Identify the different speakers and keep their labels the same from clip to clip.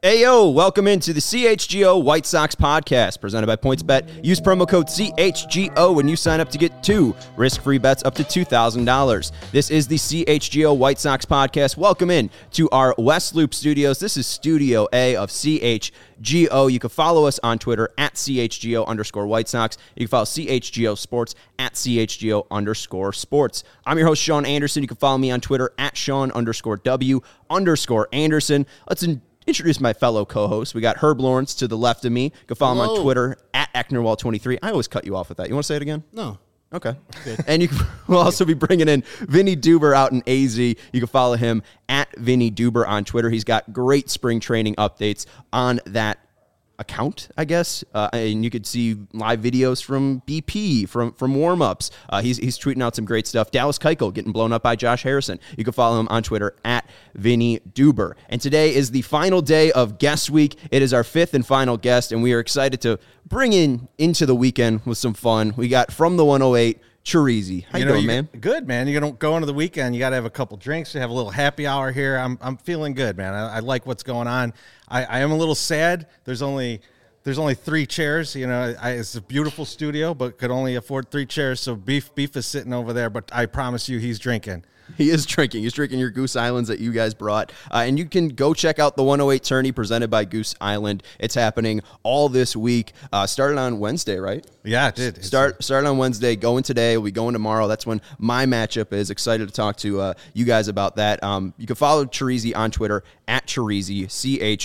Speaker 1: Ayo, welcome into the CHGO White Sox podcast presented by PointsBet. Use promo code CHGO when you sign up to get 2 risk-free bets up to $2,000. This is the CHGO White Sox podcast. Welcome in to our West Loop studios. This is Studio A of CHGO. You can follow us on Twitter at CHGO_White Sox. You can follow CHGO Sports at CHGO_Sports. I'm your host, Sean Anderson. You can follow me on Twitter at Sean_W_Anderson. Let's introduce my fellow co-hosts. We got Herb Lawrence to the left of me. You can follow him on Twitter at Ecknerwall23. I always cut you off with that. You want to say it again?
Speaker 2: No.
Speaker 1: Okay. Good. And we'll also be bringing in Vinny Duber out in AZ. You can follow him at Vinny Duber on Twitter. He's got great spring training updates on that account, I guess, and you could see live videos from BP, from warm-ups. He's tweeting out some great stuff. Dallas Keuchel getting blown up by Josh Harrison. You can follow him on Twitter at Vinny Duber. And today is the final day of Guest Week. It is our 5th and final guest, and we are excited to bring into the weekend with some fun. We got from the 108, Chirizi. How you doing, man?
Speaker 2: Good, man. You're going to go into the weekend. You got to have a couple drinks. You have a little happy hour here. I'm feeling good, man. I like what's going on. I am a little sad. There's only 3 chairs. You know, it's a beautiful studio, but could only afford 3 chairs. So Beef is sitting over there, but I promise you he's drinking.
Speaker 1: He is drinking. He's drinking your Goose Islands that you guys brought. And you can go check out the 108 Tourney presented by Goose Island. It's happening all this week. Started on Wednesday, right?
Speaker 2: Yeah, it did.
Speaker 1: Started on Wednesday, going today. We'll be going tomorrow. That's when my matchup is. Excited to talk to you guys about that. You can follow Chirizi on Twitter at Chirizi, Chorizy,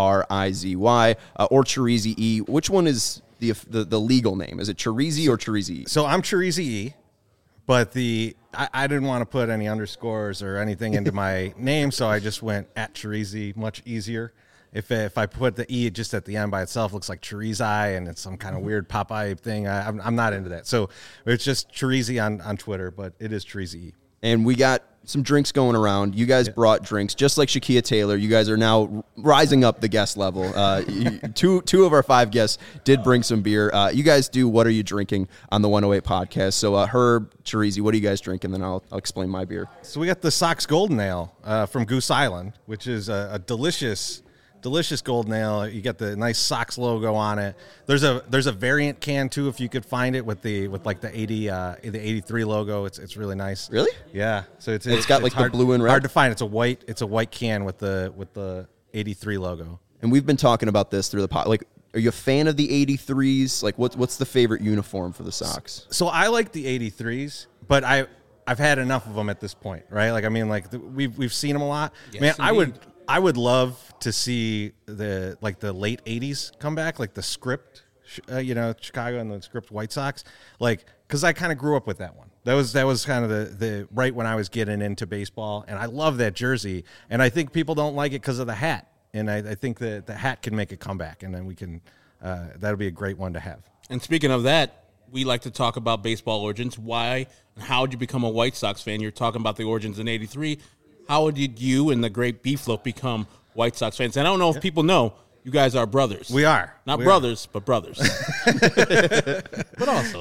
Speaker 1: or Chirizi E. Which one is the legal name? Is it Chirizi or Chirizi?
Speaker 2: So I'm Chirizi E. But I didn't want to put any underscores or anything into my name, so I just went at Chirizi, much easier. If I put the E just at the end by itself, it looks like Chorizy, and it's some kind of weird Popeye thing. I'm not into that. So it's just Chirizi on Twitter, but it is Chirizi E.
Speaker 1: And we got some drinks going around. You guys brought drinks, just like Shakia Taylor. You guys are now rising up the guest level. Two of our 5 guests did bring some beer. You guys do What Are You Drinking on the 108 podcast. So Herb, Chirizi, what are you guys drinking? Then I'll explain my beer.
Speaker 2: So we got the Sox Golden Ale from Goose Island, which is a delicious golden ale. You get the nice Sox logo on it. There's a variant can too, if you could find it with the 83 logo. It's really nice.
Speaker 1: Really?
Speaker 2: Yeah. So it's
Speaker 1: got like
Speaker 2: hard,
Speaker 1: the blue and red.
Speaker 2: Hard to find. It's a white can with the 83 logo.
Speaker 1: And we've been talking about this through the pod. Like, are you a fan of the 83s? Like, what's the favorite uniform for the Sox?
Speaker 2: So I like the 83s, but I've had enough of them at this point, right? Like, I mean, like we've seen them a lot.
Speaker 3: Yes,
Speaker 2: Man,
Speaker 3: indeed.
Speaker 2: I would love to see the late 80s come back, like the Script, Chicago and the Script White Sox, like, because I kind of grew up with that one. That was kind of the right when I was getting into baseball, and I love that jersey. And I think people don't like it because of the hat, and I think that the hat can make a comeback, and then we can that'll be a great one to have.
Speaker 3: And speaking of that, we like to talk about baseball origins. Why and how did you become a White Sox fan? You're talking about the origins in '83. How did you and the great Beefloaf become White Sox fans? And I don't know if people know, you guys are brothers.
Speaker 2: We are.
Speaker 3: Not brothers, but brothers. But also.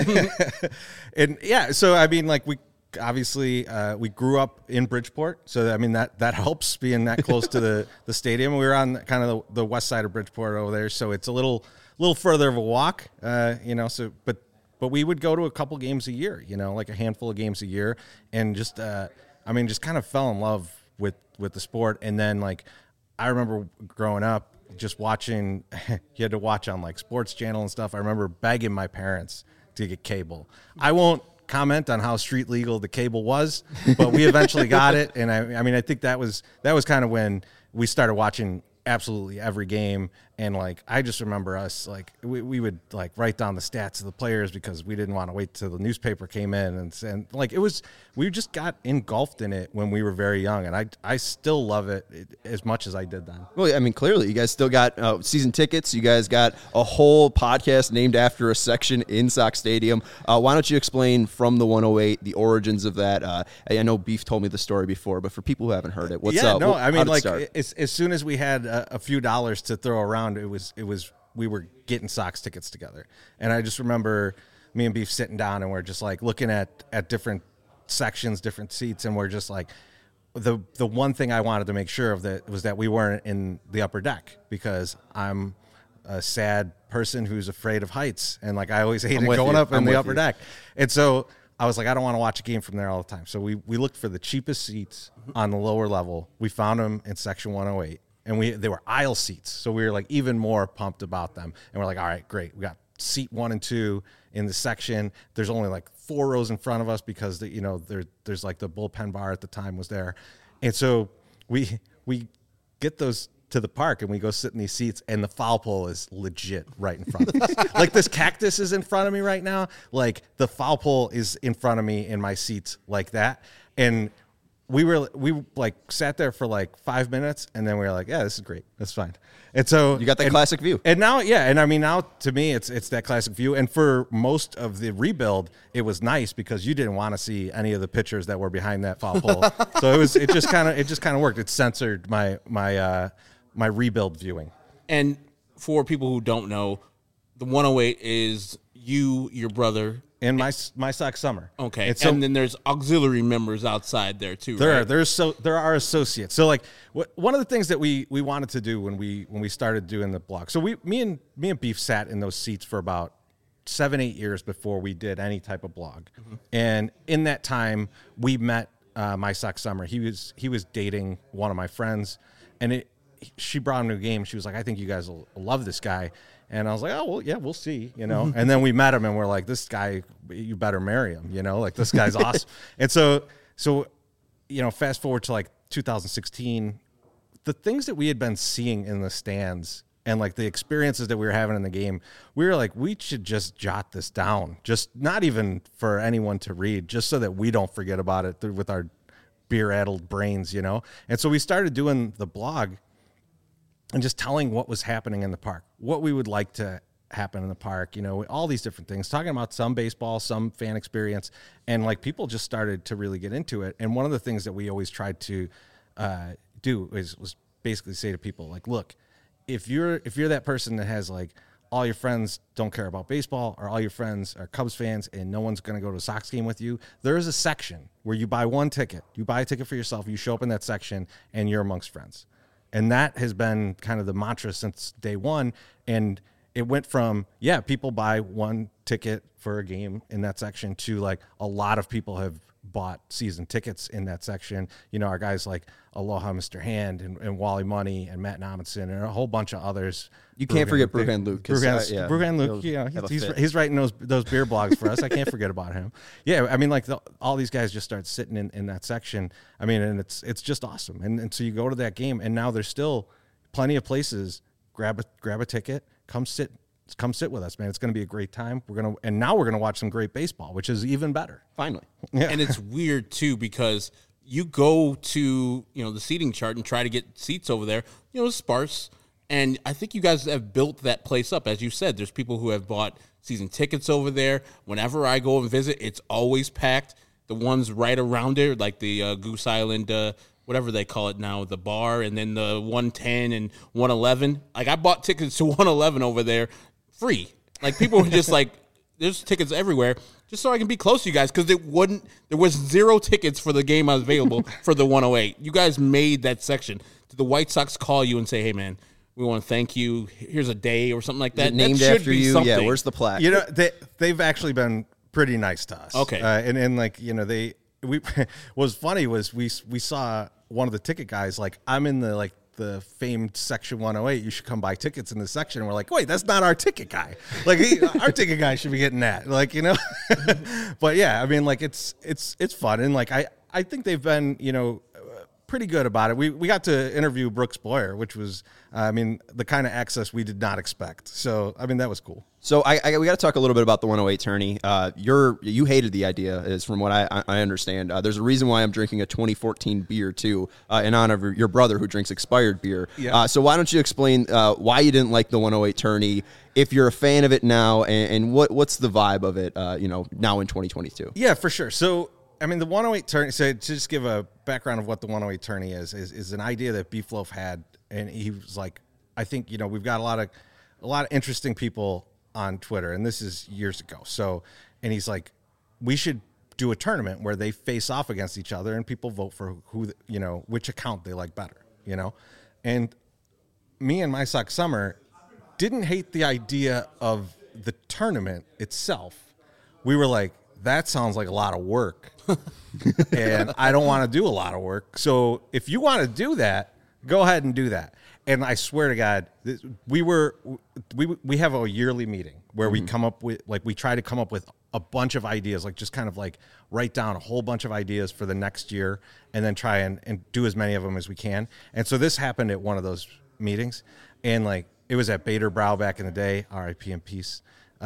Speaker 2: And yeah, so I mean, like, we obviously we grew up in Bridgeport, so I mean that helps being that close to the stadium. We were on kind of the west side of Bridgeport over there, so it's a little further of a walk, so but we would go to a couple games a year, like a handful of games a year, and just kind of fell in love with the sport. And then, like, I remember growing up just watching, you had to watch on like Sports Channel and stuff. I remember begging my parents to get cable. I won't comment on how street legal the cable was, but we eventually got it. And I think that was kind of when we started watching absolutely every game. And like, I just remember us, like, we would like write down the stats of the players because we didn't want to wait till the newspaper came in, and like, we just got engulfed in it when we were very young, and I still love it as much as I did then.
Speaker 1: Well, I mean, clearly you guys still got season tickets. You guys got a whole podcast named after a section in Sox Stadium. Why don't you explain from the 108 the origins of that? I know Beef told me the story before, but for people who haven't heard it, what's up?
Speaker 2: No, I mean, like, as soon as we had a few dollars to throw around, it was we were getting Sox tickets together. And I just remember me and Beef sitting down, and we're just like looking at different sections, different seats, and we're just like, the one thing I wanted to make sure of that was that we weren't in the upper deck, because I'm a sad person who's afraid of heights, and like I always hated going up in the upper deck. And so I was like, I don't want to watch a game from there all the time. So we looked for the cheapest seats on the lower level. We found them in section 108, and they were aisle seats. So we were like even more pumped about them. And we're like, all right, great. We got seat 1 and 2 in the section. There's only like 4 rows in front of us because there's like the bullpen bar at the time was there. And so we get those to the park and we go sit in these seats, and the foul pole is legit right in front of us. Like this cactus is in front of me right now. Like the foul pole is in front of me in my seats like that. And we like sat there for like 5 minutes, and then we were like, yeah, this is great. That's fine. And so
Speaker 1: you got that classic view.
Speaker 2: And now, yeah. And I mean, now to me, it's that classic view. And for most of the rebuild, it was nice because you didn't want to see any of the pitchers that were behind that foul pole. So it just kind of worked. It censored my rebuild viewing.
Speaker 3: And for people who don't know, the 108 is you, your brother,
Speaker 2: and my Sox Summer.
Speaker 3: Okay, and then there's auxiliary members outside there too. There
Speaker 2: are associates. So like one of the things that we wanted to do when we started doing the blog. So me and Beef sat in those seats for about 7-8 years before we did any type of blog. Mm-hmm. And in that time, we met my Sox Summer. He was dating one of my friends, and she brought him to a game. She was like, I think you guys will love this guy. And I was like, oh, well, yeah, we'll see, And then we met him, and we're like, this guy, you better marry him, Like, this guy's awesome. And so fast forward to, like, 2016, the things that we had been seeing in the stands and, like, the experiences that we were having in the game, we were like, we should just jot this down, just not even for anyone to read, just so that we don't forget about it with our beer-addled brains, And so we started doing the blog and just telling what was happening in the park, what we would like to happen in the park, all these different things, talking about some baseball, some fan experience. And like people just started to really get into it. And one of the things that we always tried to do was basically say to people, like, look, if you're that person that has like all your friends don't care about baseball, or all your friends are Cubs fans and no one's going to go to a Sox game with you, there is a section where you buy one ticket. You buy a ticket for yourself. You show up in that section and you're amongst friends. And that has been kind of the mantra since day one. And it went from, people buy one ticket for a game in that section to like a lot of people have bought season tickets in that section. Our guys like Aloha Mr. Hand and Wally Money and Matt Nommensen and a whole bunch of others.
Speaker 1: You can't forget Bruhan Luke.
Speaker 2: Bruhan Luke, he's writing those beer blogs for us. I can't forget about him. Yeah, I mean, like all these guys just start sitting in that section. I mean, and it's just awesome. And so you go to that game, and now there's still plenty of places. Grab a ticket, come sit with us, man. It's going to be a great time. Now we're gonna watch some great baseball, which is even better.
Speaker 1: Finally,
Speaker 3: yeah. And it's weird too because you go to the seating chart and try to get seats over there. It's sparse. And I think you guys have built that place up. As you said, there's people who have bought season tickets over there. Whenever I go and visit, it's always packed. The ones right around it, like the Goose Island, whatever they call it now, the bar, and then the 110 and 111. Like, I bought tickets to 111 over there free. Like, people were just like, there's tickets everywhere, just so I can be close to you guys, because there was 0 tickets for the game I was available for the 108. You guys made that section. Did the White Sox call you and say, hey, man, we want to thank you, here's a day or something like that?
Speaker 1: Named
Speaker 3: that
Speaker 1: after you? Something. Yeah, where's the plaque?
Speaker 2: They've actually been pretty nice to us.
Speaker 3: Okay.
Speaker 2: And like, what was funny was we saw one of the ticket guys, like, I'm in the famed section 108, you should come buy tickets in this section. And we're like, wait, that's not our ticket guy. Like, our ticket guy should be getting that. Like, but yeah, I mean, like, it's fun. And like, I think they've been, pretty good about it. We got to interview Brooks Boyer, which was, the kind of access we did not expect. So, that was cool.
Speaker 1: So we got to talk a little bit about the 108 tourney. You hated the idea, is from what I understand. There's a reason why I'm drinking a 2014 beer too, in honor of your brother who drinks expired beer. Yeah. So why don't you explain why you didn't like the 108 tourney, if you're a fan of it now, and what's the vibe of it, now in 2022?
Speaker 2: Yeah, for sure. So, the 108 tourney, so to just give a background of what the 108 tourney is an idea that Beef Loaf had, and he was like, I think, we've got a lot of interesting people on Twitter, and this is years ago. So, and he's like, we should do a tournament where they face off against each other and people vote for who, which account they like better, And me and My Sock Summer didn't hate the idea of the tournament itself. We were like, that sounds like a lot of work. And I don't want to do a lot of work. So if you want to do that, go ahead and do that. And I swear to God, we have a yearly meeting where we come up with, we try to come up with a bunch of ideas, just kind of write down a whole bunch of ideas for the next year and then try and do as many of them as we can. And so this happened at one of those meetings. And it was at Bader Brow back in the day, RIP in peace.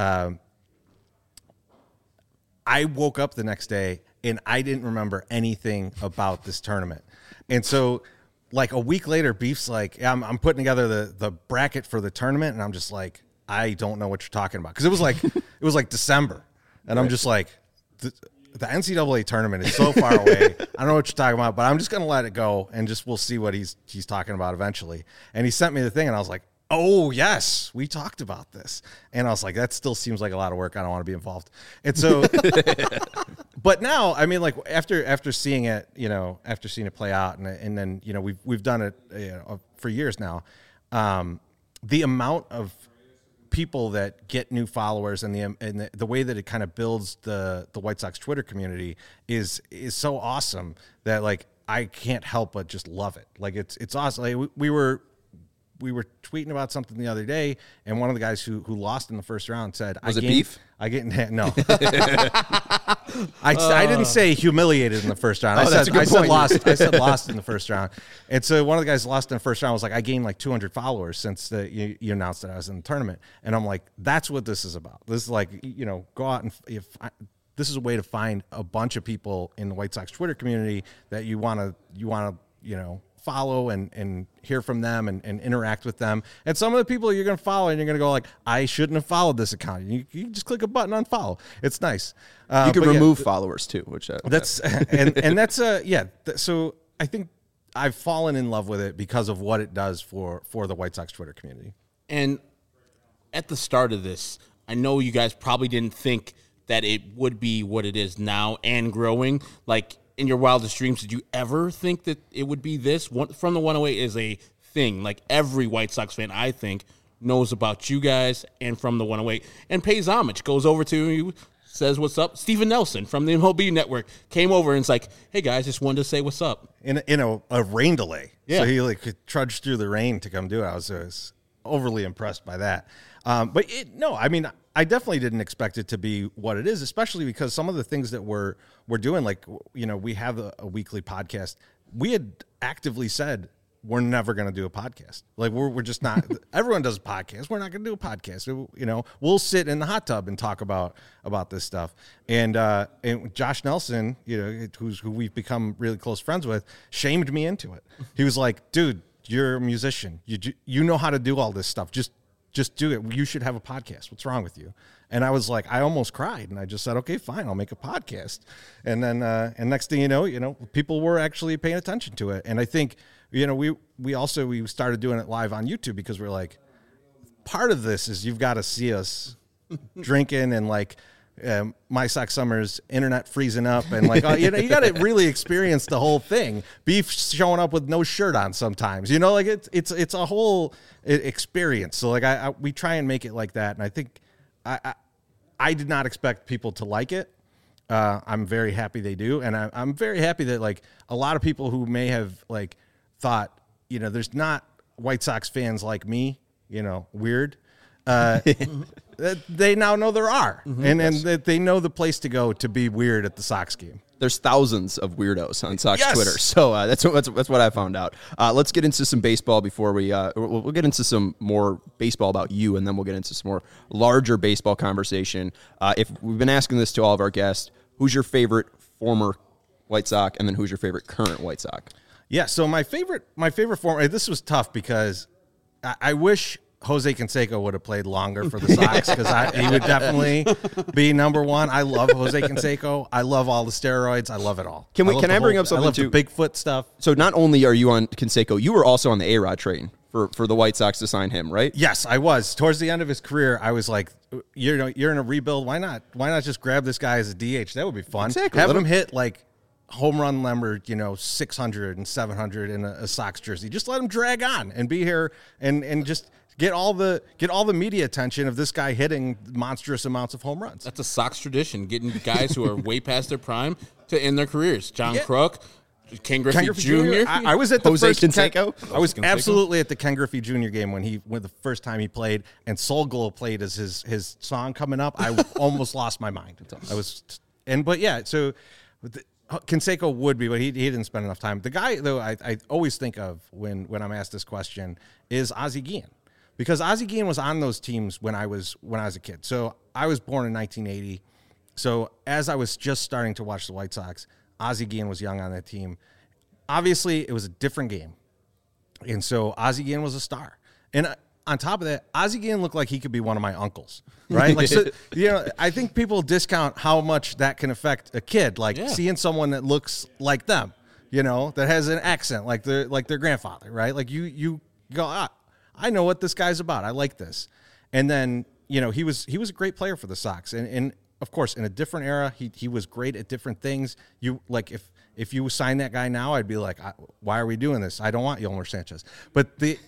Speaker 2: I woke up the next day and I didn't remember anything about this tournament. And so a week later, Beef's I'm putting together the bracket for the tournament. And I'm just I don't know what you're talking about. Cause it was December. And I'm just the NCAA tournament is so far away. I don't know what you're talking about, but I'm just going to let it go. And we'll see what he's talking about eventually. And he sent me the thing and I was like, oh yes, we talked about this. And I was like, that still seems like a lot of work. I don't want to be involved. And so, but now, after seeing it, after seeing it play out and then, we've done it for years now. The amount of people that get new followers and the way that it kind of builds the White Sox Twitter community is so awesome that I can't help but just love it. It's awesome. We were tweeting about something the other day, and one of the guys who lost in the first round said,
Speaker 1: Was it beef?
Speaker 2: No. I didn't say humiliated in the first round. I said lost. I said lost in the first round. And so one of the guys lost in the first round was I gained 200 followers since you announced that I was in the tournament. And I'm like, that's what this is about. This is go out and this is a way to find a bunch of people in the White Sox Twitter community that you want to follow and hear from them and interact with them. And some of the people you're going to follow and you're going to go I shouldn't have followed this account. You just click a button on follow. It's nice.
Speaker 1: You can remove followers too, which
Speaker 2: that's and that's so I think I've fallen in love with it because of what it does for the White Sox Twitter community.
Speaker 3: And at the start of this, I know you guys probably didn't think that it would be what it is now and growing. In your wildest dreams, did you ever think that it would be this? From the 108 is a thing. Every White Sox fan, I think, knows about you guys and From the 108 and pays homage, goes over to you, says what's up. Steven Nelson from the MLB Network came over and it's hey guys, just wanted to say what's up.
Speaker 2: In a rain delay.
Speaker 3: Yeah.
Speaker 2: So he trudged through the rain to come do it. I was overly impressed by that. I definitely didn't expect it to be what it is, especially because some of the things that we're doing, we have a weekly podcast. We had actively said we're never going to do a podcast. We're just not. Everyone does a podcast. We're not going to do a podcast. We'll sit in the hot tub and talk about this stuff. And Josh Nelson, who we've become really close friends with, shamed me into it. He was like, "Dude, you're a musician. You know how to do all this stuff. Just do it. You should have a podcast. What's wrong with you?" And I was like, I almost cried. And I just said, okay, fine, I'll make a podcast. And then, and next thing you know, people were actually paying attention to it. And I think, we started doing it live on YouTube because we're like, part of this is you've got to see us drinking and My Sock Summer's internet freezing up and you got to really experience the whole thing. Beef showing up with no shirt on sometimes, it's a whole experience. So we try and make it like that. And I think I did not expect people to like it. I'm very happy they do. And I'm very happy that a lot of people who may have thought, there's not White Sox fans like me, weird. They now know there are, and that they know the place to go to be weird at the Sox game.
Speaker 1: There's thousands of weirdos on Sox Twitter, so that's what I found out. Let's get into some baseball before we'll get into some more baseball about you, and then we'll get into some more larger baseball conversation. If we've been asking this to all of our guests, who's your favorite former White Sox, and then who's your favorite current White Sox?
Speaker 2: Yeah, so my favorite former. This was tough because I wish Jose Canseco would have played longer for the Sox because he would definitely be number one. I love Jose Canseco. I love all the steroids. I love it all.
Speaker 1: Can I bring up something
Speaker 2: I love
Speaker 1: too?
Speaker 2: The Bigfoot stuff.
Speaker 1: So not only are you on Canseco, you were also on the A-Rod train for the White Sox to sign him, right?
Speaker 2: Yes, I was. Towards the end of his career, I was like, you're in a rebuild. Why not just grab this guy as a DH? That would be fun.
Speaker 1: Exactly.
Speaker 2: Have him hit like home run number, 600 and 700 in a Sox jersey. Just let him drag on and be here and just get all the media attention of this guy hitting monstrous amounts of home runs.
Speaker 3: That's a Sox tradition, getting guys who are way past their prime to end their careers. John Kruk, Ken Griffey Jr.
Speaker 2: I was at the
Speaker 1: Jose
Speaker 2: first
Speaker 1: Canseco.
Speaker 2: I was absolutely at the Ken Griffey Jr. game when the first time he played and Soul Glow played as his song coming up. I almost lost my mind. So Canseco would be, but he didn't spend enough time. The guy though I always think of when I'm asked this question is Ozzie Guillen, because Ozzie Guillen was on those teams when I was a kid. So I was born in 1980. So as I was just starting to watch the White Sox, Ozzie Guillen was young on that team. Obviously, it was a different game. And so Ozzie Guillen was a star. And on top of that, Ozzie Guillen looked like he could be one of my uncles, right? Like, so, I think people discount how much that can affect a kid, like seeing someone that looks like them, that has an accent like their grandfather, right? Like you go, I know what this guy's about. I like this. And then, he was a great player for the Sox. And of course, in a different era, he was great at different things. You like if you sign that guy now, I'd be like, why are we doing this? I don't want Yolmer Sanchez. But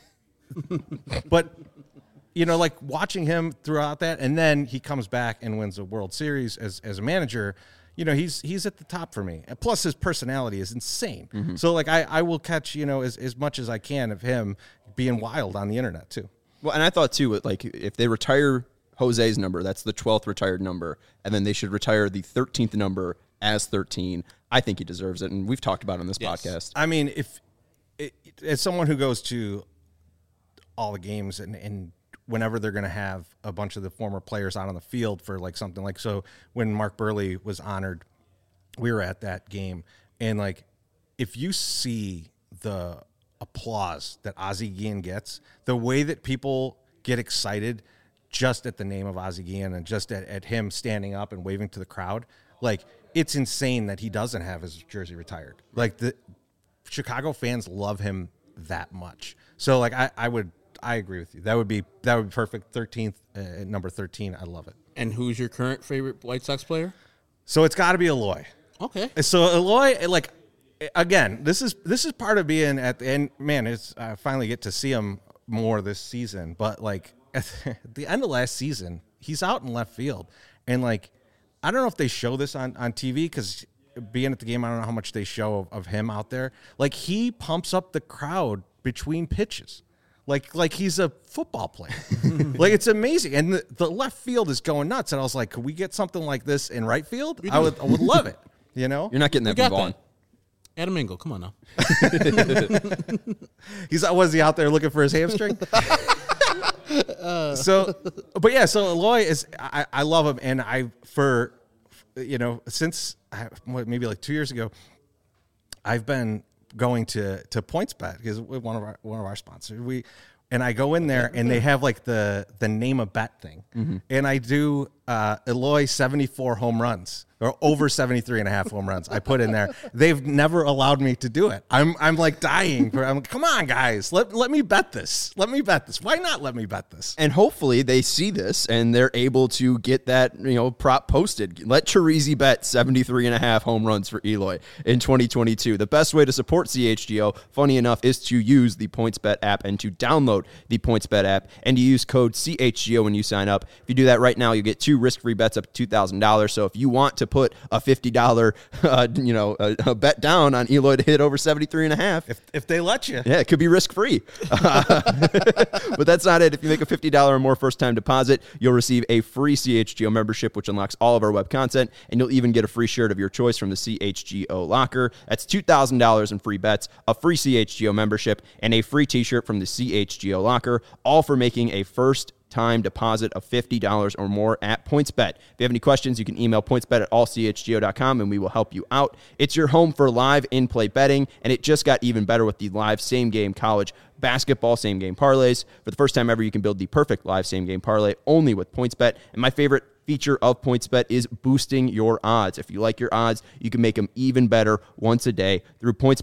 Speaker 2: like watching him throughout that, and then he comes back and wins a World Series as a manager. He's at the top for me. And plus, his personality is insane. Mm-hmm. So like I will catch as much as I can of him being wild on the internet too.
Speaker 1: Well, and I thought too, like if they retire Jose's number, that's the 12th retired number, and then they should retire the 13th number as 13. I think he deserves it, and we've talked about it on this podcast.
Speaker 2: I mean, as someone who goes to all the games and whenever they're going to have a bunch of the former players out on the field for like something like, so when Mark Burley was honored, we were at that game, and like if you see the applause that Ozzie Guillen gets, the way that people get excited just at the name of Ozzie Guillen and just at him standing up and waving to the crowd, like it's insane that he doesn't have his jersey retired. Like the Chicago fans love him that much. So like I agree with you. That would be perfect. 13th, number 13. I love it.
Speaker 3: And who's your current favorite White Sox player?
Speaker 2: So it's got to be Eloy.
Speaker 3: Okay.
Speaker 2: So Eloy, like again, this is part of being at the end. Man, I finally get to see him more this season. But like at the end of last season, he's out in left field, and like I don't know if they show this on TV because being at the game, I don't know how much they show of him out there. Like he pumps up the crowd between pitches. Like he's a football player. Like it's amazing. And the left field is going nuts. And I was like, could we get something like this in right field? I would love it.
Speaker 1: You're not getting that from Vaughn.
Speaker 3: Adam Engel, come on now.
Speaker 2: Was he out there looking for his hamstring? So Eloy is, I love him. And since maybe like 2 years ago, I've been going to PointsBet because one of our sponsors. And I go in there and they have like the name a bet thing, and I do Eloy 74 home runs or over 73 and a half home runs. I put in there. They've never allowed me to do it. I'm like dying. Come on, guys, let me bet this. Let me bet this. Why not let me bet this?
Speaker 1: And hopefully they see this and they're able to get that prop posted. Let Chirizi bet 73 and a half home runs for Eloy in 2022. The best way to support CHGO, funny enough, is to use the PointsBet app and to download the PointsBet app and to use code CHGO when you sign up. If you do that right now, you get 2 risk-free bets up to $2,000. So if you want to put a $50 a bet down on Eloy to hit over 73 and a half,
Speaker 2: if they let you,
Speaker 1: it could be risk-free. But that's not it. If you make a $50 or more first-time deposit, you'll receive a free CHGO membership, which unlocks all of our web content, and you'll even get a free shirt of your choice from the CHGO locker. That's $2,000 in free bets, a free CHGO membership, and a free t-shirt from the CHGO locker, all for making a first-time deposit of $50 or more at PointsBet. If you have any questions, you can email pointsbet@allchgo.com and we will help you out. It's your home for live in-play betting, and it just got even better with the live same-game college basketball same-game parlays. For the first time ever, you can build the perfect live same-game parlay only with PointsBet. And my favorite feature of PointsBet is boosting your odds. If you like your odds, you can make them even better once a day through PointsBet.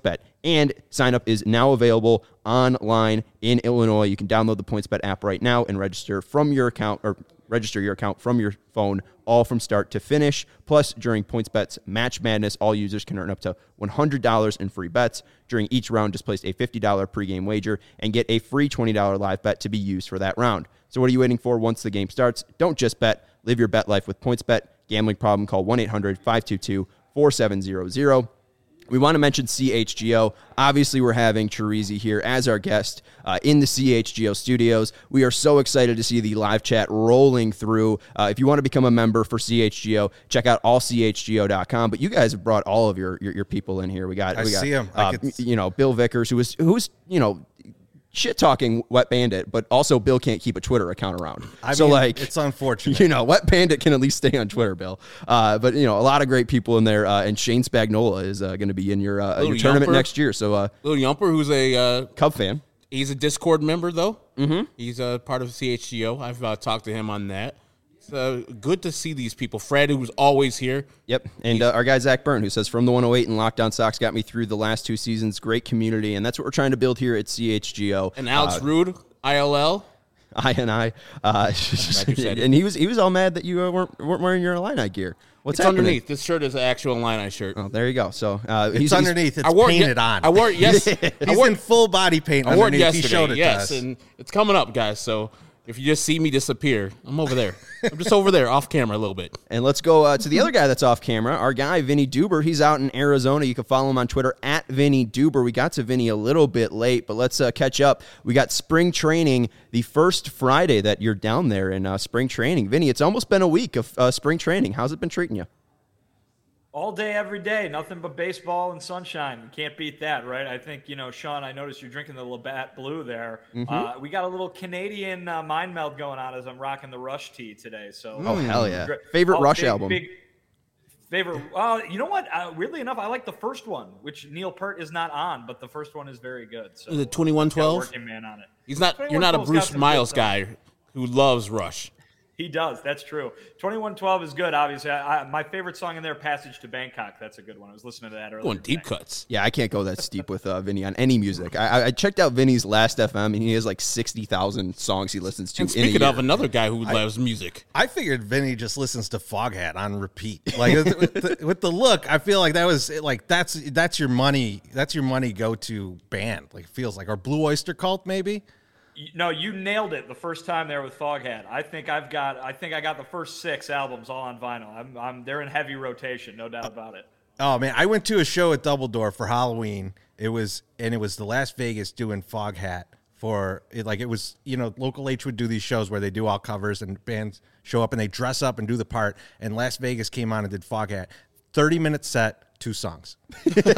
Speaker 1: And sign up is now available online in Illinois. You can download the PointsBet app right now and register your account from your phone, all from start to finish. Plus, during PointsBet's Match Madness, all users can earn up to $100 in free bets. During each round, just place a $50 pregame wager and get a free $20 live bet to be used for that round. So what are you waiting for once the game starts? Don't just bet. Live your bet life with PointsBet. Gambling problem? Call 1-800-522-4700. We want to mention CHGO. Obviously, we're having Chirizi here as our guest in the CHGO studios. We are so excited to see the live chat rolling through. If you want to become a member for CHGO, check out allchgo.com. But you guys have brought all of your people in here. We got
Speaker 2: see him.
Speaker 1: Bill Vickers, who's shit talking Wet Bandit, but also Bill can't keep a Twitter account around.
Speaker 2: I
Speaker 1: mean,
Speaker 2: it's unfortunate.
Speaker 1: Wet Bandit can at least stay on Twitter, Bill. But a lot of great people in there, and Shane Spagnola is going to be in your tournament next year. So
Speaker 3: Lil Yumper, who's a
Speaker 1: Cub fan.
Speaker 3: He's a Discord member, though. Mm-hmm. He's a part of CHGO. I've talked to him on that. It's good to see these people. Fred, who's always here.
Speaker 1: Yep. And our guy, Zach Byrne, who says, from the 108 and Lockdown Sox got me through the last 2 seasons. Great community. And that's what we're trying to build here at CHGO.
Speaker 3: And Alex Rude, ILL.
Speaker 1: And he was all mad that you weren't wearing your Illini gear. What's
Speaker 3: it's
Speaker 1: happening?
Speaker 3: Underneath. This shirt is an actual Illini shirt.
Speaker 1: Oh, there you go. So
Speaker 2: it's underneath. It's painted on.
Speaker 3: I wore it yesterday.
Speaker 2: He's in full body paint.
Speaker 3: I wore it yesterday.
Speaker 2: He showed it
Speaker 3: to
Speaker 2: us.
Speaker 3: And it's coming up, guys. So if you just see me disappear, I'm over there. I'm just over there, off camera a little bit.
Speaker 1: And let's go to the other guy that's off camera, our guy, Vinny Duber. He's out in Arizona. You can follow him on Twitter, @VinnyDuber. We got to Vinny a little bit late, but let's catch up. We got spring training the first Friday that you're down there in spring training. Vinny, it's almost been a week of spring training. How's it been treating you?
Speaker 4: All day, every day, nothing but baseball and sunshine. You can't beat that, right? I think, Sean, I noticed you're drinking the Labatt Blue there. Mm-hmm. We got a little Canadian mind meld going on as I'm rocking the Rush tee today. So,
Speaker 1: oh, hell yeah. Favorite Rush album?
Speaker 4: Favorite. You know what? Weirdly enough, I like the first one, which Neil Peart is not on, but the first one is very good. So,
Speaker 3: is it 2112?
Speaker 4: Working man on it.
Speaker 3: You're not a Bruce Miles guy who loves Rush.
Speaker 4: He does. That's true. 2112 is good, obviously. My favorite song in there, Passage to Bangkok. That's a good one. I was listening to that earlier.
Speaker 3: Going deep cuts.
Speaker 1: Yeah, I can't go that steep with Vinny on any music. I checked out Vinny's Last FM, and he has like 60,000 songs he listens to
Speaker 3: and speaking of another guy who loves music.
Speaker 2: I figured Vinny just listens to Foghat on repeat. Like with the look, I feel like that was like that's your money go-to band. Like it feels like, or Blue Oyster Cult maybe.
Speaker 4: No, you nailed it the first time there with Foghat. I think I got the first 6 albums all on vinyl. They're in heavy rotation, no doubt about it.
Speaker 2: Oh man, I went to a show at Double Door for Halloween. It was the Las Vegas doing Foghat for it. Like it was, Local H would do these shows where they do all covers and bands show up and they dress up and do the part. And Las Vegas came on and did Foghat. 30-minute set, 2 songs.
Speaker 1: The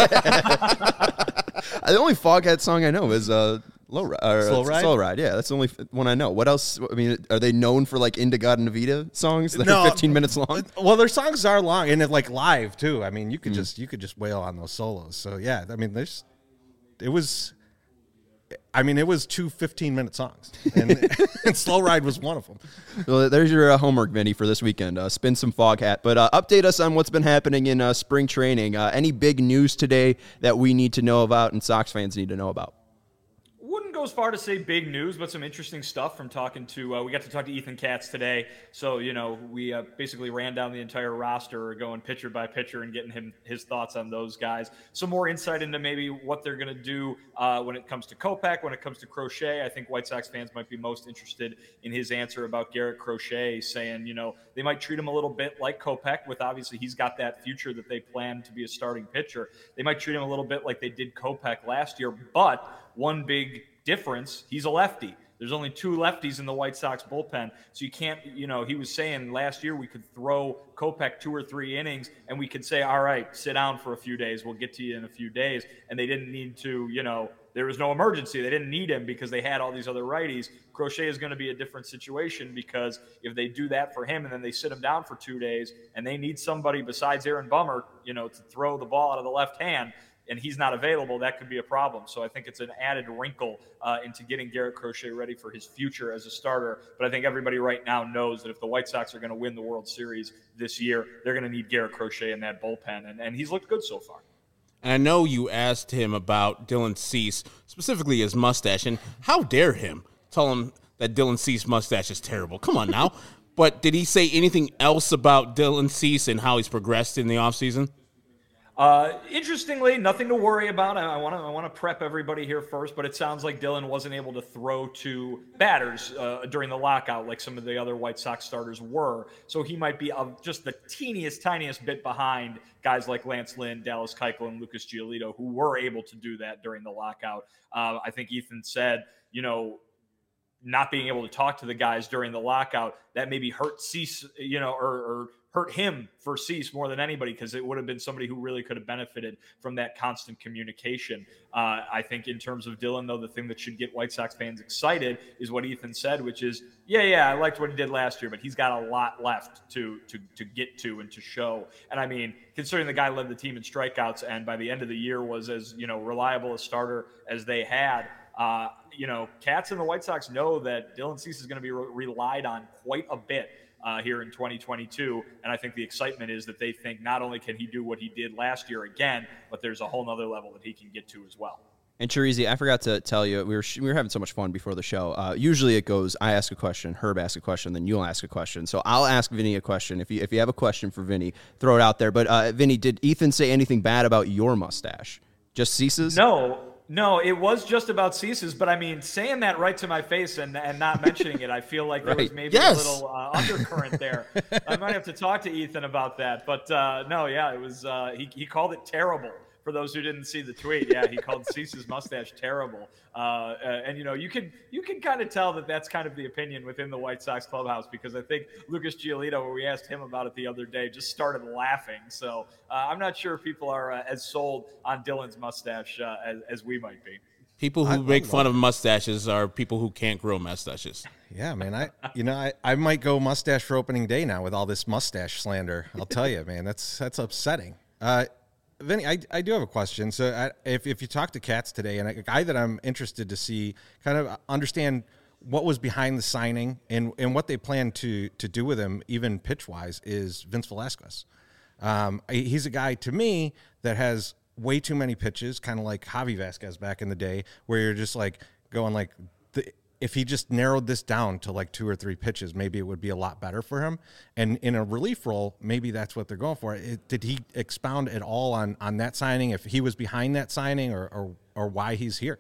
Speaker 1: only Foghat song I know is Slow Ride, yeah, that's the only one I know. What else? I mean, are they known for like Indagod and Navita songs that are 15 minutes long?
Speaker 2: Well, their songs are long and like live too. I mean, you could just wail on those solos. So yeah, I mean, it was 2 15-minute songs, and Slow Ride was one of them.
Speaker 1: Well, there's your homework, Vinny, for this weekend. Spin some Foghat, but update us on what's been happening in spring training. Any big news today that we need to know about and Sox fans need to know about?
Speaker 4: Wouldn't go as far to say big news, but some interesting stuff from talking to, we got to talk to Ethan Katz today. So, we basically ran down the entire roster, going pitcher by pitcher and getting his thoughts on those guys. Some more insight into maybe what they're going to do when it comes to Kopech, when it comes to Crochet. I think White Sox fans might be most interested in his answer about Garrett Crochet, saying, they might treat him a little bit like Kopech, with obviously he's got that future that they plan to be a starting pitcher. They might treat him a little bit like they did Kopech last year, but one big difference, he's a lefty. There's only 2 lefties in the White Sox bullpen. So you can't, he was saying last year we could throw Kopech 2 or 3 innings and we could say, all right, sit down for a few days. We'll get to you in a few days. And they didn't need to, there was no emergency. They didn't need him because they had all these other righties. Crochet is going to be a different situation because if they do that for him and then they sit him down for 2 days and they need somebody besides Aaron Bummer, to throw the ball out of the left hand, and he's not available, that could be a problem. So I think it's an added wrinkle into getting Garrett Crochet ready for his future as a starter. But I think everybody right now knows that if the White Sox are going to win the World Series this year, they're going to need Garrett Crochet in that bullpen. And he's looked good so far.
Speaker 3: And I know you asked him about Dylan Cease, specifically his mustache, and how dare him tell him that Dylan Cease's mustache is terrible. Come on now. But did he say anything else about Dylan Cease and how he's progressed in the offseason?
Speaker 4: Interestingly, nothing to worry about. I want to prep everybody here first, but it sounds like Dylan wasn't able to throw to batters during the lockout like some of the other White Sox starters were. So he might be just the tiniest bit behind guys like Lance Lynn, Dallas Keuchel, and Lucas Giolito, who were able to do that during the lockout. I think Ethan said, not being able to talk to the guys during the lockout, that maybe hurt Cease, or hurt him for Cease more than anybody, because it would have been somebody who really could have benefited from that constant communication. I think in terms of Dylan, though, the thing that should get White Sox fans excited is what Ethan said, which is, I liked what he did last year, but he's got a lot left to get to and to show. And I mean, considering the guy led the team in strikeouts and by the end of the year was as, reliable a starter as they had, Cats and the White Sox know that Dylan Cease is going to be relied on quite a bit here in 2022. And I think the excitement is that they think not only can he do what he did last year again, but there's a whole nother level that he can get to as well.
Speaker 1: And Chirizi, I forgot to tell you, we were having so much fun before the show. Usually it goes, I ask a question, Herb asks a question, then you'll ask a question. So I'll ask Vinny a question. If you have a question for Vinny, throw it out there. But Vinny, did Ethan say anything bad about your mustache? Just Cease's?
Speaker 4: No, it was just about Cease's, but I mean, saying that right to my face and not mentioning it, I feel like there was maybe a little undercurrent there. I might have to talk to Ethan about that, but it was he called it terrible. For those who didn't see the tweet, he called Cease's mustache terrible. And you can kind of tell that that's kind of the opinion within the White Sox clubhouse, because I think Lucas Giolito, when we asked him about it the other day, just started laughing. So I'm not sure if people are as sold on Dylan's mustache as we might be.
Speaker 3: People who make fun of mustaches are people who can't grow mustaches.
Speaker 2: Yeah, man. I might go mustache for opening day now with all this mustache slander. I'll tell you, man, that's upsetting. Vinny, I do have a question. So if you talk to Cats today, and a guy that I'm interested to see kind of understand what was behind the signing and what they plan to do with him, even pitch-wise, is Vince Velasquez. He's a guy, to me, that has way too many pitches, kind of like Javi Vasquez back in the day, where you're just like going like, if he just narrowed this down to like 2 or 3 pitches, maybe it would be a lot better for him. And in a relief role, maybe that's what they're going for. Did he expound at all on that signing, if he was behind that signing or why he's here?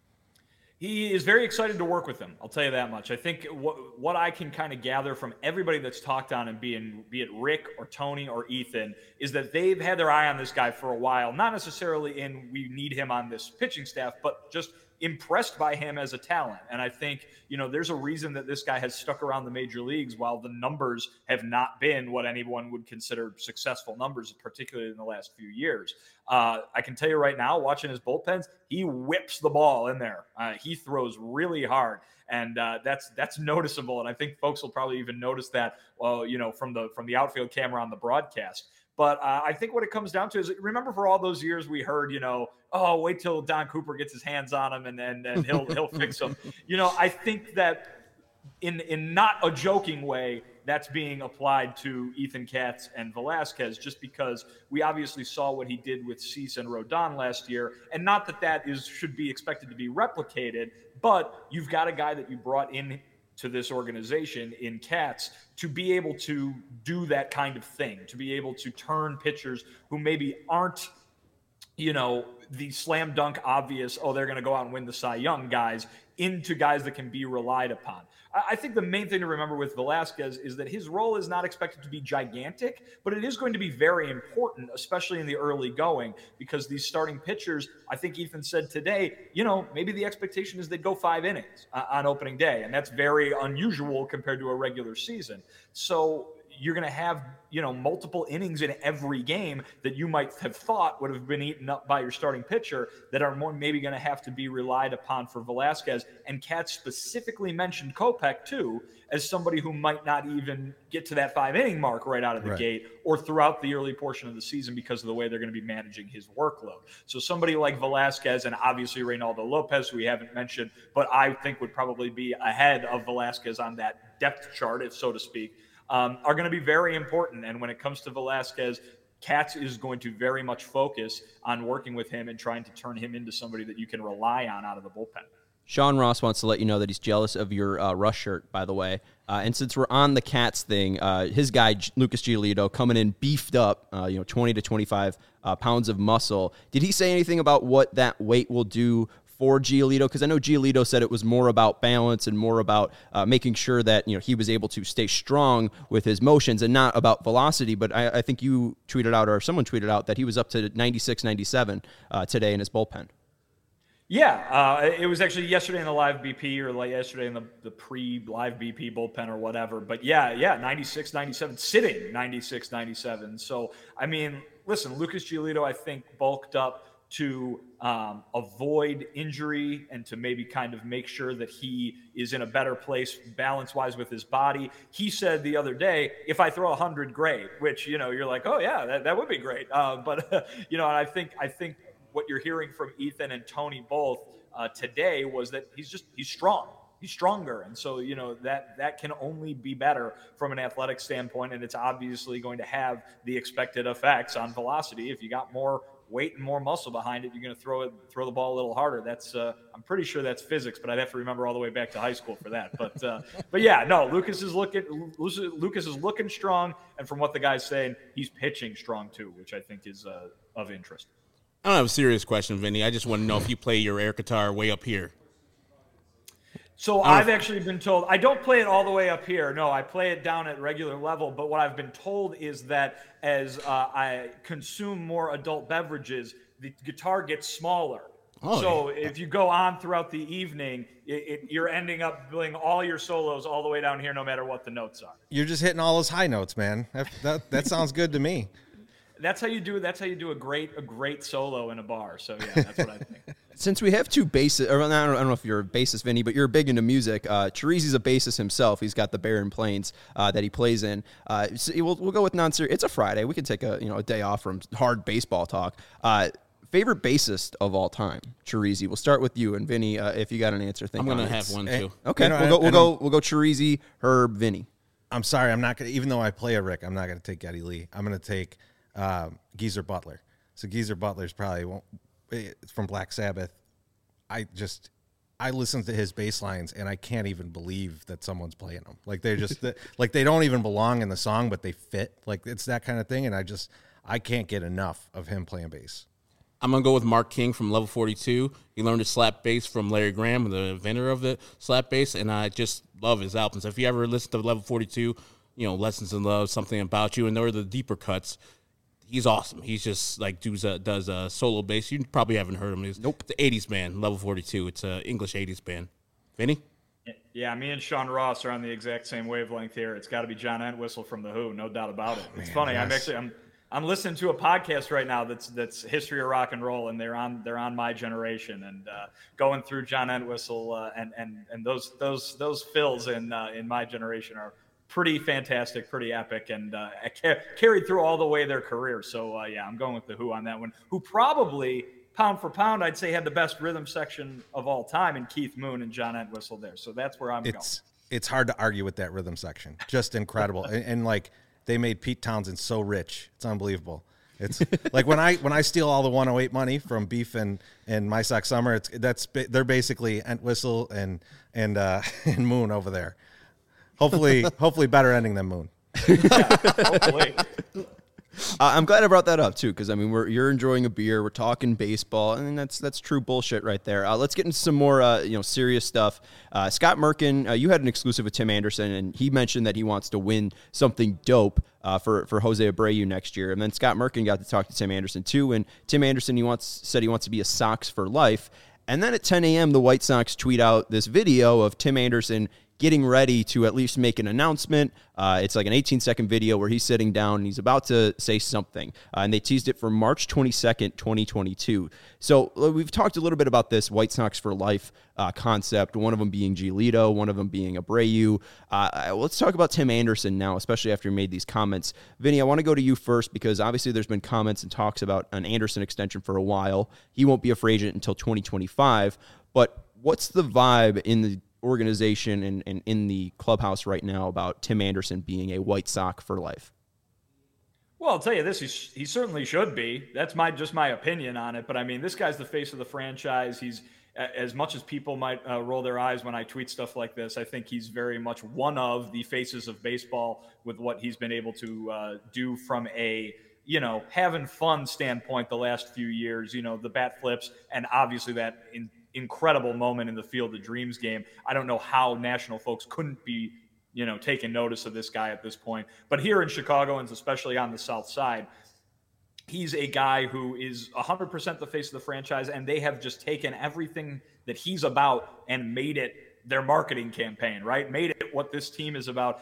Speaker 4: He is very excited to work with them. I'll tell you that much. I think what I can kind of gather from everybody that's talked on and be it Rick or Tony or Ethan, is that they've had their eye on this guy for a while, not necessarily in we need him on this pitching staff, but just impressed by him as a talent. And I think, there's a reason that this guy has stuck around the major leagues while the numbers have not been what anyone would consider successful numbers, particularly in the last few years. I can tell you right now, watching his bullpens, he whips the ball in there. He throws really hard. And that's noticeable. And I think folks will probably even notice that, from the outfield camera on the broadcast. But I think what it comes down to is, remember for all those years we heard, wait till Don Cooper gets his hands on him and he'll fix him. I think that in not a joking way, that's being applied to Ethan Katz and Velasquez, just because we obviously saw what he did with Cease and Rodon last year. And not that should be expected to be replicated, but you've got a guy that you brought in to this organization in Katz to be able to do that kind of thing, to be able to turn pitchers who maybe aren't, the slam dunk obvious, they're going to go out and win the Cy Young guys, into guys that can be relied upon. I think the main thing to remember with Velasquez is that his role is not expected to be gigantic, but it is going to be very important, especially in the early going, because these starting pitchers, I think Ethan said today, maybe the expectation is they'd go 5 innings on opening day, and that's very unusual compared to a regular season. So you're going to have, multiple innings in every game that you might have thought would have been eaten up by your starting pitcher that are more maybe going to have to be relied upon for Velasquez. And Katz specifically mentioned Kopech too, as somebody who might not even get to that 5-inning mark right out of the gate or throughout the early portion of the season because of the way they're going to be managing his workload. So somebody like Velasquez and obviously Reynaldo Lopez, who we haven't mentioned, but I think would probably be ahead of Velasquez on that depth chart, if so to speak, are going to be very important. And when it comes to Velasquez, Katz is going to very much focus on working with him and trying to turn him into somebody that you can rely on out of the bullpen.
Speaker 1: Sean Ross wants to let you know that he's jealous of your Rush shirt, by the way. And since we're on the Cats thing, his guy, Lucas Giolito, coming in beefed up, 20 to 25 pounds of muscle. Did he say anything about what that weight will do for Giolito? Because I know Giolito said it was more about balance and more about making sure that he was able to stay strong with his motions and not about velocity. But I think you tweeted out, or someone tweeted out, that he was up to 96, 97 today in his bullpen.
Speaker 4: Yeah, it was actually yesterday in the live BP or like yesterday in the pre-live BP bullpen or whatever. But yeah, 96, 97, sitting 96, 97. So, I mean, listen, Lucas Giolito, I think, bulked up to avoid injury and to maybe kind of make sure that he is in a better place balance-wise with his body. He said the other day, if I throw 100, great, which, you're like, oh, yeah, that would be great. But and I think what you're hearing from Ethan and Tony both today was that he's strong. He's stronger. And so, that can only be better from an athletic standpoint. And it's obviously going to have the expected effects on velocity. If you got more weight and more muscle behind it, you're going to throw the ball a little harder. That's I'm pretty sure that's physics, but I'd have to remember all the way back to high school for that. But yeah, no, Lucas is looking strong. And from what the guy's saying, he's pitching strong too, which I think is of interest.
Speaker 3: I don't have a serious question, Vinny. I just want to know if you play your air guitar way up here.
Speaker 4: So I've actually been told I don't play it all the way up here. No, I play it down at regular level. But what I've been told is that as I consume more adult beverages, the guitar gets smaller. Oh, so if you go on throughout the evening, you're ending up playing all your solos all the way down here, no matter what the notes are.
Speaker 2: You're just hitting all those high notes, man. That sounds good to me.
Speaker 4: That's how you do a great solo in a bar. So yeah, that's what I think.
Speaker 1: Since we have two bassists, or I don't know if you're a bassist, Vinny, but you're big into music. Chirizi's a bassist himself. He's got the Barren Plains that he plays in. So we'll go with non-serious. It's a Friday. We can take a day off from hard baseball talk. Favorite bassist of all time, Chirizi. We'll start with you, and Vinny, if you got an answer, think.
Speaker 3: I'm gonna have one too.
Speaker 1: Okay, we'll go Chirizi, Herb, Vinny.
Speaker 2: I'm sorry, I'm not gonna. Even though I play a Rick, I'm not gonna take Geddy Lee. I'm gonna take Geezer Butler. So Geezer Butler's probably from Black Sabbath. I listen to his bass lines and I can't even believe that someone's playing them. Like they're just like they don't even belong in the song, but they fit. Like it's that kind of thing. And I can't get enough of him playing bass.
Speaker 3: I'm going to go with Mark King from Level 42. He learned to slap bass from Larry Graham, the inventor of the slap bass, and I just love his albums. If you ever listen to Level 42, Lessons in Love, Something About You, and there are the deeper cuts, he's awesome. He's just like does a solo bass. You probably haven't heard him. Nope. The 80s band, Level 42. It's an English 80s band. Vinny?
Speaker 4: Yeah, me and Sean Ross are on the exact same wavelength here. It's got to be John Entwistle from The Who, no doubt about it. It's funny. Yes. I'm listening to a podcast right now that's history of rock and roll, and they're on my generation, and going through John Entwistle and those fills in my generation are pretty fantastic, pretty epic, and carried through all the way their career. So yeah, I'm going with The Who on that one. Who probably pound for pound, I'd say, had the best rhythm section of all time in Keith Moon and John Entwistle there. So that's where I'm going.
Speaker 2: It's hard to argue with that rhythm section. Just incredible, and like. They made Pete Townsend so rich. It's unbelievable. It's like when I steal all the 108 money from Beef and My Sock Summer, they're basically Entwistle and Moon over there. Hopefully better ending than Moon.
Speaker 4: Yeah, hopefully.
Speaker 1: I'm glad I brought that up too, because I mean you're enjoying a beer, we're talking baseball, and that's true bullshit right there. Let's get into some more serious stuff. Scott Merkin, you had an exclusive with Tim Anderson, and he mentioned that he wants to win something dope for Jose Abreu next year. And then Scott Merkin got to talk to Tim Anderson too, and Tim Anderson said he wants to be a Sox for life. And then at 10 a.m., the White Sox tweet out this video of Tim Anderson getting ready to at least make an announcement. It's like an 18-second video where he's sitting down and he's about to say something. And they teased it for March 22nd, 2022. So we've talked a little bit about this White Sox for life concept, one of them being Giolito, one of them being Abreu. Let's talk about Tim Anderson now, especially after he made these comments. Vinny, I want to go to you first because obviously there's been comments and talks about an Anderson extension for a while. He won't be a free agent until 2025. But what's the vibe in the organization and in the clubhouse right now about Tim Anderson being a White Sox for life?
Speaker 4: Well, I'll tell you this: he certainly should be. That's just my opinion on it. But I mean, this guy's the face of the franchise. He's as much as people might roll their eyes when I tweet stuff like this. I think he's very much one of the faces of baseball with what he's been able to do from a having fun standpoint the last few years. The bat flips and obviously that incredible moment in the Field of Dreams game. I don't know how national folks couldn't be taking notice of this guy at this point. But here in Chicago, and especially on the South Side, he's a guy who is 100% the face of the franchise, and they have just taken everything that he's about and made it their marketing campaign, right? Made it what this team is about.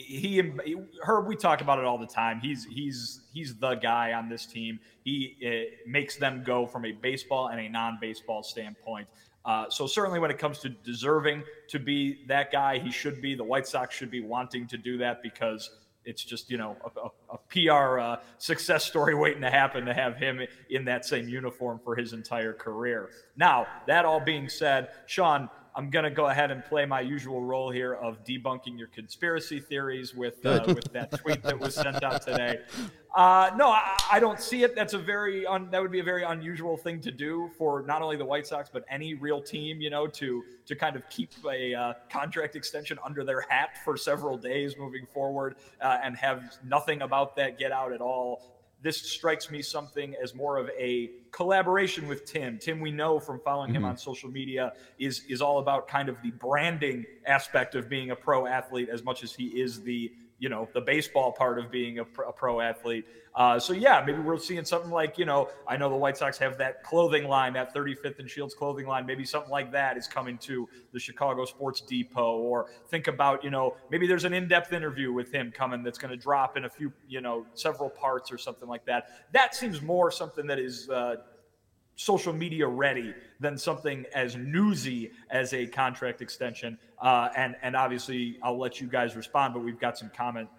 Speaker 4: Herb, we talk about it all the time. He's the guy on this team. He makes them go from a baseball and a non-baseball standpoint. So certainly when it comes to deserving to be that guy, he should be. The White Sox should be wanting to do that because it's just, a PR success story waiting to happen to have him in that same uniform for his entire career. Now, that all being said, Sean, I'm going to go ahead and play my usual role here of debunking your conspiracy theories with that tweet that was sent out today. No, I don't see it. That's that would be a very unusual thing to do for not only the White Sox, but any real team, to kind of keep a contract extension under their hat for several days moving forward and have nothing about that get out at all. This strikes me something as more of a collaboration with Tim. Tim, we know from following him on social media, is all about kind of the branding aspect of being a pro athlete as much as he is the baseball part of being a pro athlete. So yeah, maybe we're seeing something like, I know the White Sox have that clothing line, that 35th and Shields clothing line. Maybe something like that is coming to the Chicago Sports Depot. Or think about, maybe there's an in-depth interview with him coming that's going to drop in a few, several parts or something like that. That seems more something that is social media ready than something as newsy as a contract extension. And obviously I'll let you guys respond, but we've got some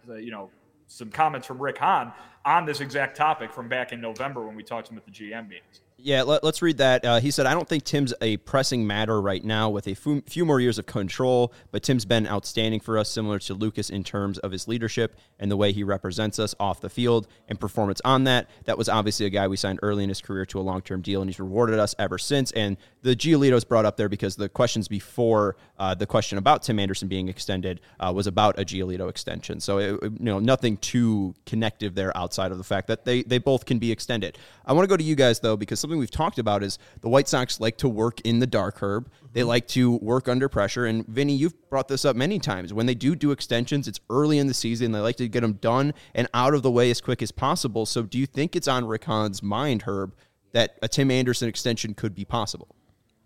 Speaker 4: some comments from Rick Hahn on this exact topic from back in November when we talked to him at the GM meetings.
Speaker 1: Yeah, let's read that. He said, I don't think Tim's a pressing matter right now with a few more years of control, but Tim's been outstanding for us, similar to Lucas in terms of his leadership and the way he represents us off the field and performance on that. That was obviously a guy we signed early in his career to a long-term deal, and he's rewarded us ever since. And the Giolito's brought up there because the questions before the question about Tim Anderson being extended was about a Giolito extension. So, nothing too connective there outside of the fact that they both can be extended. I want to go to you guys, though, because something we've talked about is the White Sox like to work in the dark, Herb. They like to work under pressure. And Vinny, you've brought this up many times. When they do extensions, it's early in the season. They like to get them done and out of the way as quick as possible. So do you think it's on Rick Hahn's mind, Herb, that a Tim Anderson extension could be possible?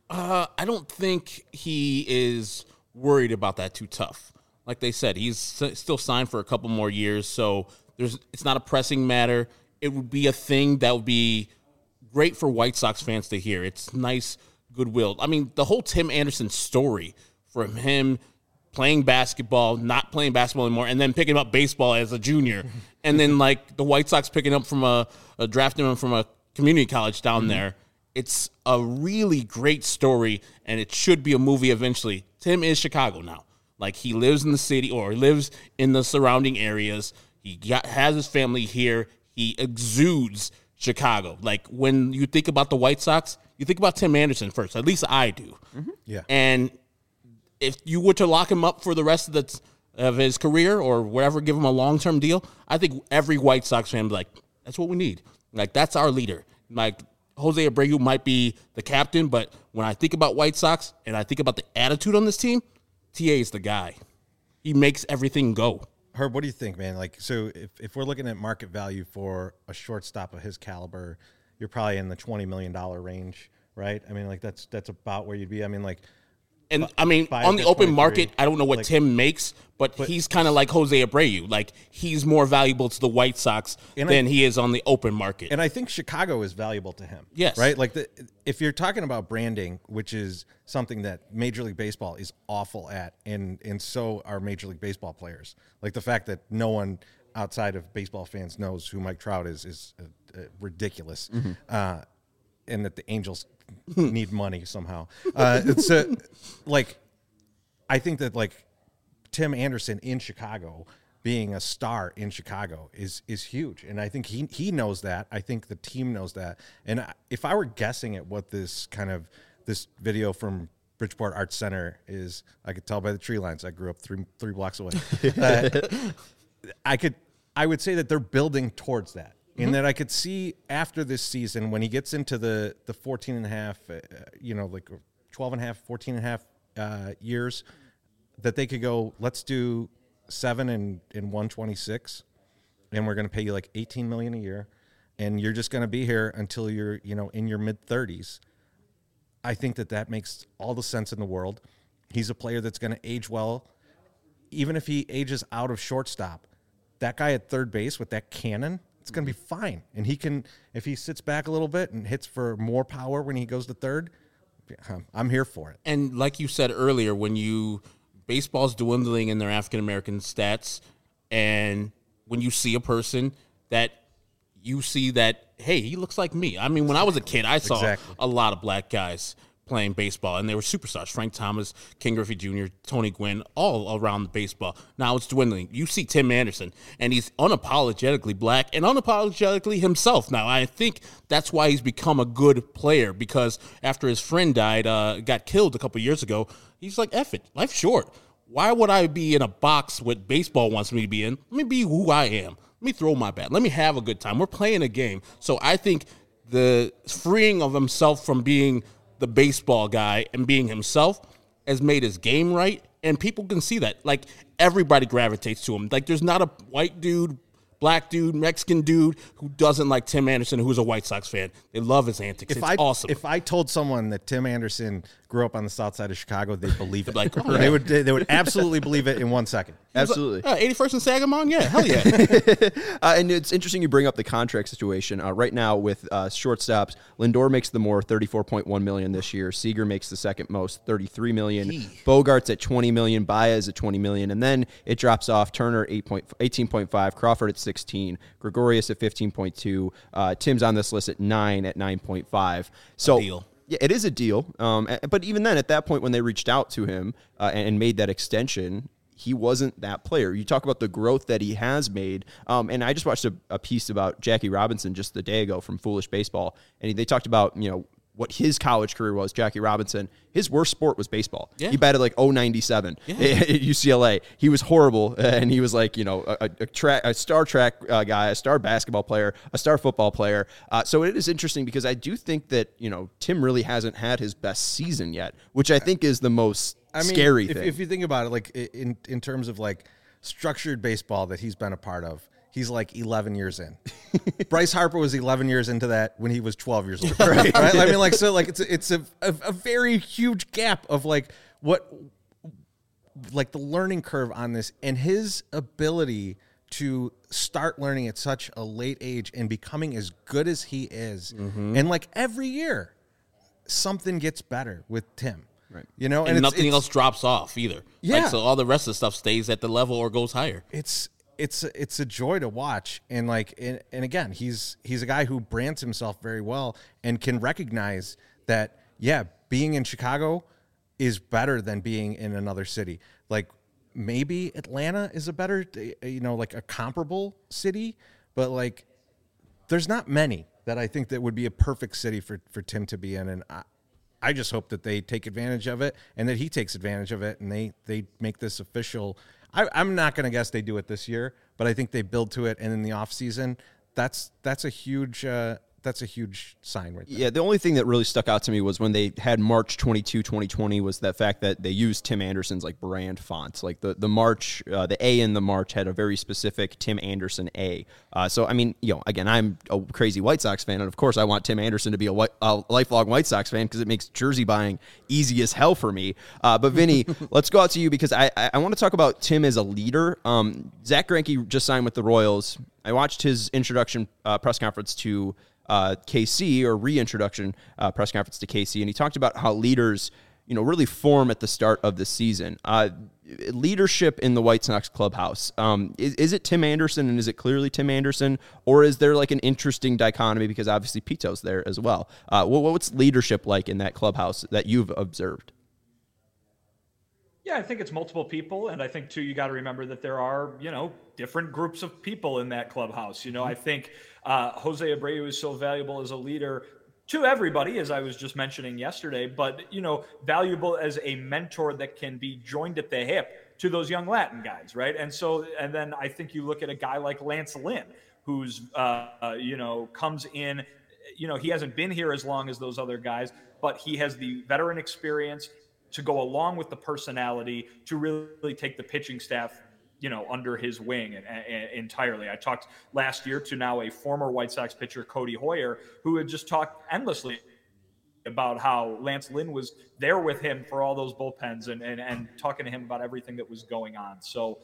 Speaker 3: I don't think he is worried about that too tough. Like they said, he's still signed for a couple more years, so it's not a pressing matter. It would be a thing that would be great for White Sox fans to hear. It's nice goodwill. I mean, the whole Tim Anderson story, from him playing basketball, not playing basketball anymore, and then picking up baseball as a junior, and then like the White Sox picking up from drafting him from a community college down there. It's a really great story, and it should be a movie eventually. Tim is Chicago now. Like, he lives in the city or lives in the surrounding areas. He has his family here. He exudes Chicago. Like, when you think about the White Sox, you think about Tim Anderson first. At least I do. Mm-hmm.
Speaker 2: Yeah.
Speaker 3: And if you were to lock him up for the rest of his career or whatever, give him a long-term deal, I think every White Sox fan would be like, that's what we need. Like, that's our leader. Like, Jose Abreu might be the captain, but when I think about White Sox and I think about the attitude on this team, TA is the guy. He makes everything go.
Speaker 2: Herb, what do you think, man? Like, so if we're looking at market value for a shortstop of his caliber, you're probably in the $20 million range, right? I mean, like, that's about where you'd be. I mean, like,
Speaker 3: and I mean, on the open market, I don't know what Tim makes, but he's kind of like Jose Abreu. Like, he's more valuable to the White Sox than he is on the open market.
Speaker 2: And I think Chicago is valuable to him.
Speaker 3: Yes.
Speaker 2: Right? Like, if you're talking about branding, which is something that Major League Baseball is awful at, and so are Major League Baseball players. Like, the fact that no one outside of baseball fans knows who Mike Trout is ridiculous. Mm-hmm. And that the Angels need money somehow. It's like, I think that, like, Tim Anderson in Chicago being a star in Chicago is huge. And I think he knows that. I think the team knows that. And if I were guessing at what this video from Bridgeport Arts Center is, I could tell by the tree lines. I grew up three blocks away. I would say that they're building towards that. In that I could see after this season, when he gets into the 14 and a half, like 12 and a half, 14 and a half years, that they could go, let's do 7 and 126, and we're going to pay you like $18 million a year, and you're just going to be here until you're, in your mid 30s. I think that makes all the sense in the world. He's a player that's going to age well, even if he ages out of shortstop. That guy at third base with that cannon, it's going to be fine. And he can, if he sits back a little bit and hits for more power when he goes to third, I'm here for it.
Speaker 3: And like you said earlier, baseball's dwindling in their African-American stats, and when you see a person that you see that, hey, he looks like me. I mean, when I was a kid, I saw a lot of black guys playing baseball, and they were superstars. Frank Thomas, Ken Griffey Jr., Tony Gwynn, all around the baseball. Now it's dwindling. You see Tim Anderson, and he's unapologetically black and unapologetically himself. Now, I think that's why he's become a good player, because after his friend died, got killed a couple years ago, he's like, F it, life's short. Why would I be in a box what baseball wants me to be in? Let me be who I am. Let me throw my bat. Let me have a good time. We're playing a game. So I think the freeing of himself from being the baseball guy and being himself has made his game right, and people can see that. Like, everybody gravitates to him. Like, there's not a white dude, black dude, Mexican dude who doesn't like Tim Anderson, who's a White Sox fan. They love his antics. It's awesome.
Speaker 2: If I told someone that Tim Anderson grew up on the south side of Chicago, they'd believe it.
Speaker 3: Like, oh,
Speaker 2: they would absolutely believe it in 1 second.
Speaker 1: Absolutely.
Speaker 3: 81st and Sagamon? Yeah, hell yeah.
Speaker 1: And it's interesting you bring up the contract situation. Right now with shortstops, Lindor makes the more, $34.1 million this year. Seager makes the second most, $33 million. Bogart's at $20 million. Baez at $20 million. And then it drops off. Turner, 18.5. Crawford at 16. Gregorius at 15.2. Tim's on this list at 9 at 9.5. So,
Speaker 3: deal.
Speaker 1: Yeah, it is a deal. But even then, at that point, when they reached out to him and made that extension, he wasn't that player. You talk about the growth that he has made. And I just watched a piece about Jackie Robinson just the day ago from Foolish Baseball. And they talked about, what his college career was, Jackie Robinson. His worst sport was baseball. Yeah. He batted like .097 at UCLA. He was horrible, and he was like, a star track guy, a star basketball player, a star football player. So it is interesting because I do think that, Tim really hasn't had his best season yet, which I think is the most scary thing.
Speaker 2: If you think about it, like in terms of like structured baseball that he's been a part of, he's like 11 years in. Bryce Harper was 11 years into that when he was 12 years old. Right? I mean, like, so like it's a very huge gap of like the learning curve on this, and his ability to start learning at such a late age and becoming as good as he is. Mm-hmm. And like every year something gets better with Tim.
Speaker 1: Right.
Speaker 3: And nothing else drops off either.
Speaker 2: Yeah.
Speaker 3: So all the rest of the stuff stays at the level or goes higher.
Speaker 2: It's a joy to watch, and again, he's a guy who brands himself very well and can recognize that, being in Chicago is better than being in another city. Like, maybe Atlanta is a better, like a comparable city, but like there's not many that I think that would be a perfect city for Tim to be in, and I just hope that they take advantage of it and that he takes advantage of it, and they make this official. I'm not going to guess they do it this year, but I think they build to it, and in the offseason, that's a huge sign right there.
Speaker 1: Yeah, the only thing that really stuck out to me was when they had March 22, 2020, was that fact that they used Tim Anderson's like brand fonts. Like the March, the A in the March had a very specific Tim Anderson A. So, I mean, again, I'm a crazy White Sox fan, and of course I want Tim Anderson to be a lifelong White Sox fan because it makes jersey buying easy as hell for me. But Vinny, let's go out to you because I want to talk about Tim as a leader. Zach Greinke just signed with the Royals. I watched his introduction press conference to KC, or reintroduction press conference to KC, and he talked about how leaders, really form at the start of the season. Leadership in the White Sox clubhouse. Is it Tim Anderson, and is it clearly Tim Anderson, or is there like an interesting dichotomy because obviously Pito's there as well? What's leadership like in that clubhouse that you've observed?
Speaker 4: Yeah, I think it's multiple people, and I think too you got to remember that there are different groups of people in that clubhouse. I think Jose Abreu is so valuable as a leader to everybody, as I was just mentioning yesterday, but valuable as a mentor that can be joined at the hip to those young Latin guys, right? And then I think you look at a guy like Lance Lynn, who's comes in. He hasn't been here as long as those other guys, but he has the veteran experience to go along with the personality to really take the pitching staff, under his wing entirely. I talked last year to now a former White Sox pitcher, Cody Hoyer, who had just talked endlessly about how Lance Lynn was there with him for all those bullpens and talking to him about everything that was going on. So,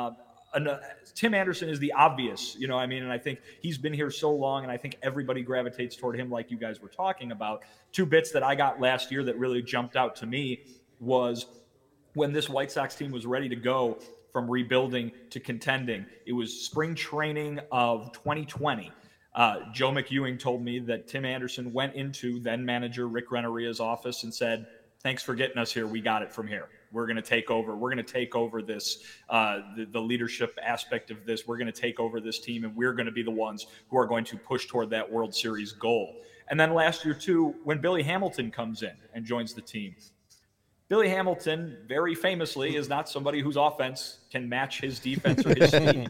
Speaker 4: Tim Anderson is the obvious, and I think he's been here so long, and I think everybody gravitates toward him like you guys were talking about. Two bits that I got last year that really jumped out to me was when this White Sox team was ready to go from rebuilding to contending. It was spring training of 2020. Joe McEwing told me that Tim Anderson went into then manager Rick Renteria's office and said, "Thanks for getting us here. We got it from here. We're going to take over. We're going to take over this, the leadership aspect of this. We're going to take over this team, and we're going to be the ones who are going to push toward that World Series goal." And then last year, too, when Billy Hamilton comes in and joins the team, Billy Hamilton, very famously, is not somebody whose offense can match his defense or his speed.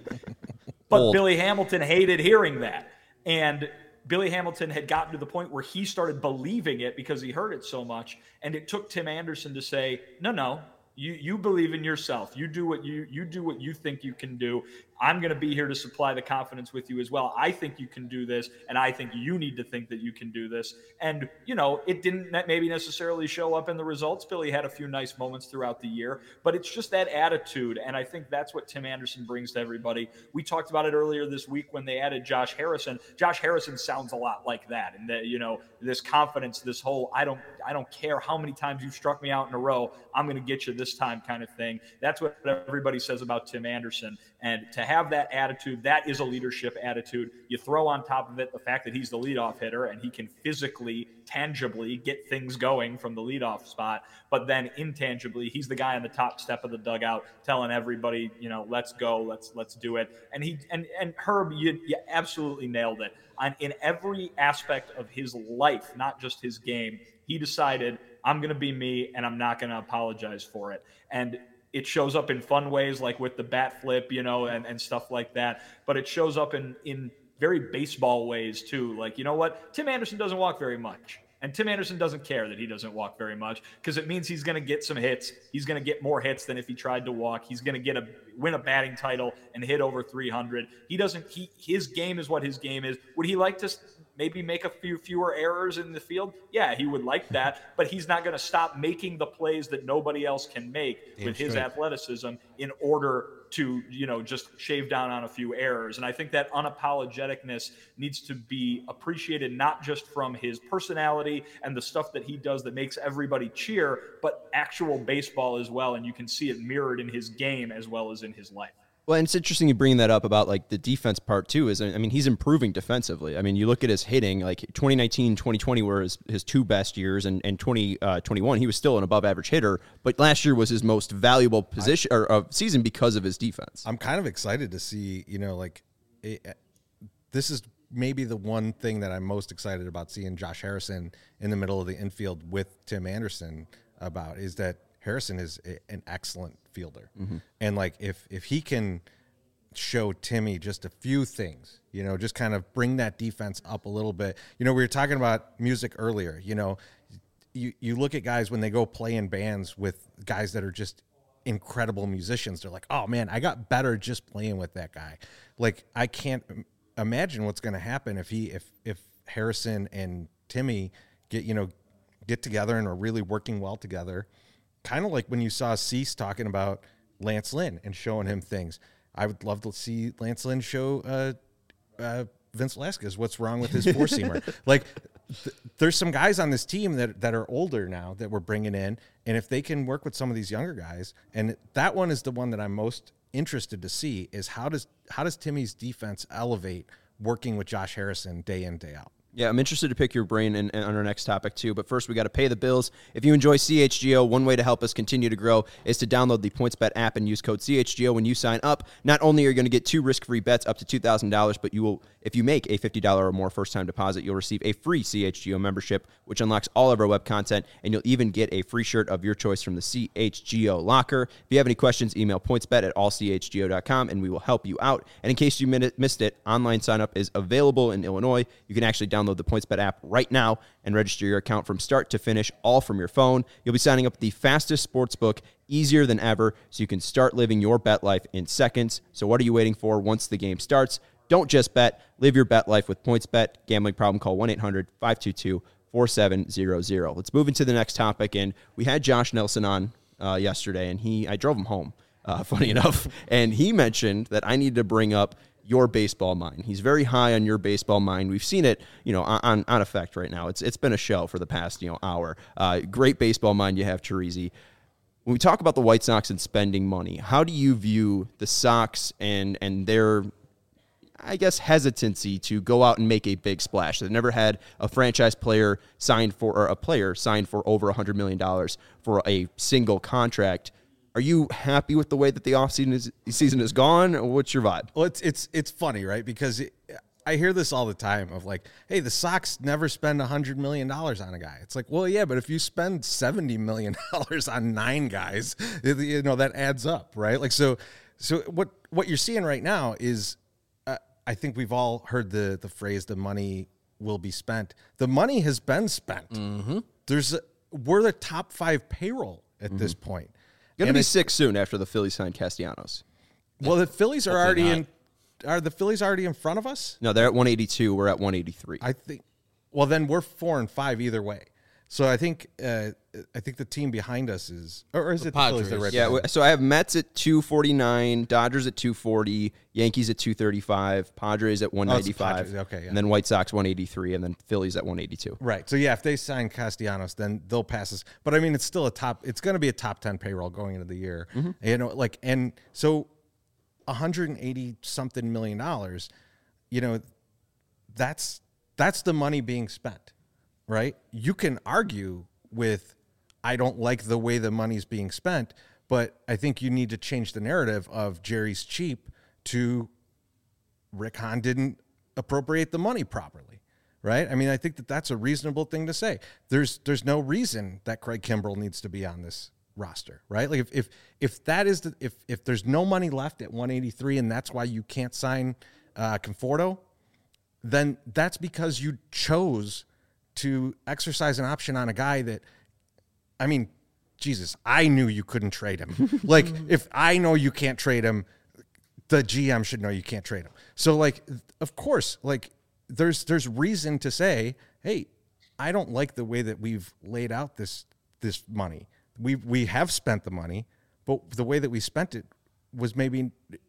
Speaker 4: But Billy Hamilton hated hearing that. And Billy Hamilton had gotten to the point where he started believing it because he heard it so much. And it took Tim Anderson to say, no, you believe in yourself. You do what you think you can do. I'm going to be here to supply the confidence with you as well. I think you can do this, and I think you need to think that you can do this. And, it didn't maybe necessarily show up in the results. Billy had a few nice moments throughout the year, but it's just that attitude, and I think that's what Tim Anderson brings to everybody. We talked about it earlier this week when they added Josh Harrison. Josh Harrison sounds a lot like that, and that, this confidence, this whole I don't care how many times you've struck me out in a row, I'm going to get you this time kind of thing. That's what everybody says about Tim Anderson. And to have that attitude, that is a leadership attitude. You throw on top of it the fact that he's the leadoff hitter and he can physically, tangibly get things going from the leadoff spot. But then intangibly, he's the guy on the top step of the dugout telling everybody, let's go, let's do it. And Herb, you absolutely nailed it. In every aspect of his life, not just his game, he decided, I'm going to be me and I'm not going to apologize for it. And it shows up in fun ways like with the bat flip, and stuff like that. But it shows up in very baseball ways too. Like, you know what? Tim Anderson doesn't walk very much. And Tim Anderson doesn't care that he doesn't walk very much because it means he's going to get some hits. He's going to get more hits than if he tried to walk. He's going to win a batting title and hit over 300. His game is what his game is. Would he like to maybe make a few fewer errors in the field? Yeah, he would like that, but he's not going to stop making the plays that nobody else can make with his athleticism in order to, just shave down on a few errors. And I think that unapologeticness needs to be appreciated, not just from his personality and the stuff that he does that makes everybody cheer, but actual baseball as well. And you can see it mirrored in his game as well as in his life.
Speaker 1: Well, and it's interesting you bring that up about like the defense part too. He's improving defensively. You look at his hitting, like 2019, 2020 were his two best years, and 2021 he was still an above average hitter. But last year was his most valuable position or season because of his defense.
Speaker 2: I'm kind of excited to see, this is maybe the one thing that I'm most excited about seeing Josh Harrison in the middle of the infield with Tim Anderson about is that Harrison is an excellent fielder. Mm-hmm. And like, if he can show Timmy just a few things, just kind of bring that defense up a little bit. We were talking about music earlier, you look at guys when they go play in bands with guys that are just incredible musicians. They're like, oh man, I got better just playing with that guy. Like, I can't imagine what's going to happen if Harrison and Timmy get together and are really working well together. Kind of like when you saw Cease talking about Lance Lynn and showing him things. I would love to see Lance Lynn show Vince Velasquez what's wrong with his four-seamer. Like, there's some guys on this team that are older now that we're bringing in, and if they can work with some of these younger guys, and that one is the one that I'm most interested to see is how does Timmy's defense elevate working with Josh Harrison day in, day out?
Speaker 1: Yeah, I'm interested to pick your brain on our next topic too. But first, we got to pay the bills. If you enjoy CHGO, one way to help us continue to grow is to download the PointsBet app and use code CHGO when you sign up. Not only are you going to get 2 risk-free bets up to $2,000, but if you make a $50 or more first-time deposit, you'll receive a free CHGO membership, which unlocks all of our web content, and you'll even get a free shirt of your choice from the CHGO locker. If you have any questions, email pointsbet@allchgo.com, and we will help you out. And in case you missed it, online sign-up is available in Illinois. You can actually download the PointsBet app right now and register your account from start to finish, all from your phone. You'll be signing up the fastest sports book, easier than ever, so you can start living your bet life in seconds. So what are you waiting for once the game starts? Don't just bet. Live your bet life with PointsBet. Gambling problem, call 1-800-522-4700. Let's move into the next topic. And we had Josh Nelson on yesterday, and I drove him home, funny enough, and he mentioned that I need to bring up your baseball mind. He's very high on your baseball mind. We've seen it, on effect right now. It's been a show for the past, hour. Great baseball mind you have, Teresi. When we talk about the White Sox and spending money, how do you view the Sox and their, I guess, hesitancy to go out and make a big splash? They've never had a franchise player signed for, or a player signed for over $100 million for a single contract. Are you happy with the way that the offseason is gone? What's your vibe?
Speaker 2: Well, it's funny, right? Because I hear this all the time of like, hey, the Sox never spend $100 million on a guy. It's like, well, yeah, but if you spend $70 million on 9 guys, that adds up, right? Like, so what you're seeing right now is, I think we've all heard the phrase, the money will be spent. The money has been spent. Mm-hmm. We're the top 5 payroll at this point.
Speaker 1: Going to be 6 soon after the Phillies signed Castellanos.
Speaker 2: Well, the Phillies are already in. Are the Phillies already in front of us?
Speaker 1: No, they're at 182. We're at 183.
Speaker 2: I think. Well, then we're 4 and 5 either way. So I think the team behind us is, or is it the Phillies that are right behind us?
Speaker 1: So I have Mets at 249, Dodgers at 240, Yankees at 235, Padres at 195, and then White Sox 183, and then Phillies at 182.
Speaker 2: Right. So yeah, if they sign Castellanos, then they'll pass us. But I mean, it's still it's going to be a top 10 payroll going into the year. Mm-hmm. And so 180 something million dollars, that's the money being spent. Right? You can argue with, I don't like the way the money's being spent, but I think you need to change the narrative of Jerry's cheap to Rick Hahn didn't appropriate the money properly. Right? I mean, I think that's a reasonable thing to say. There's no reason that Craig Kimbrell needs to be on this roster, right? Like if that is if there's no money left at 183 and that's why you can't sign Conforto, then that's because you chose to exercise an option on a guy that, I mean, Jesus, I knew you couldn't trade him. Like, if I know you can't trade him, the GM should know you can't trade him. So, like, of course, like, there's reason to say, hey, I don't like the way that we've laid out this money. We have spent the money, but the way that we spent it was maybe,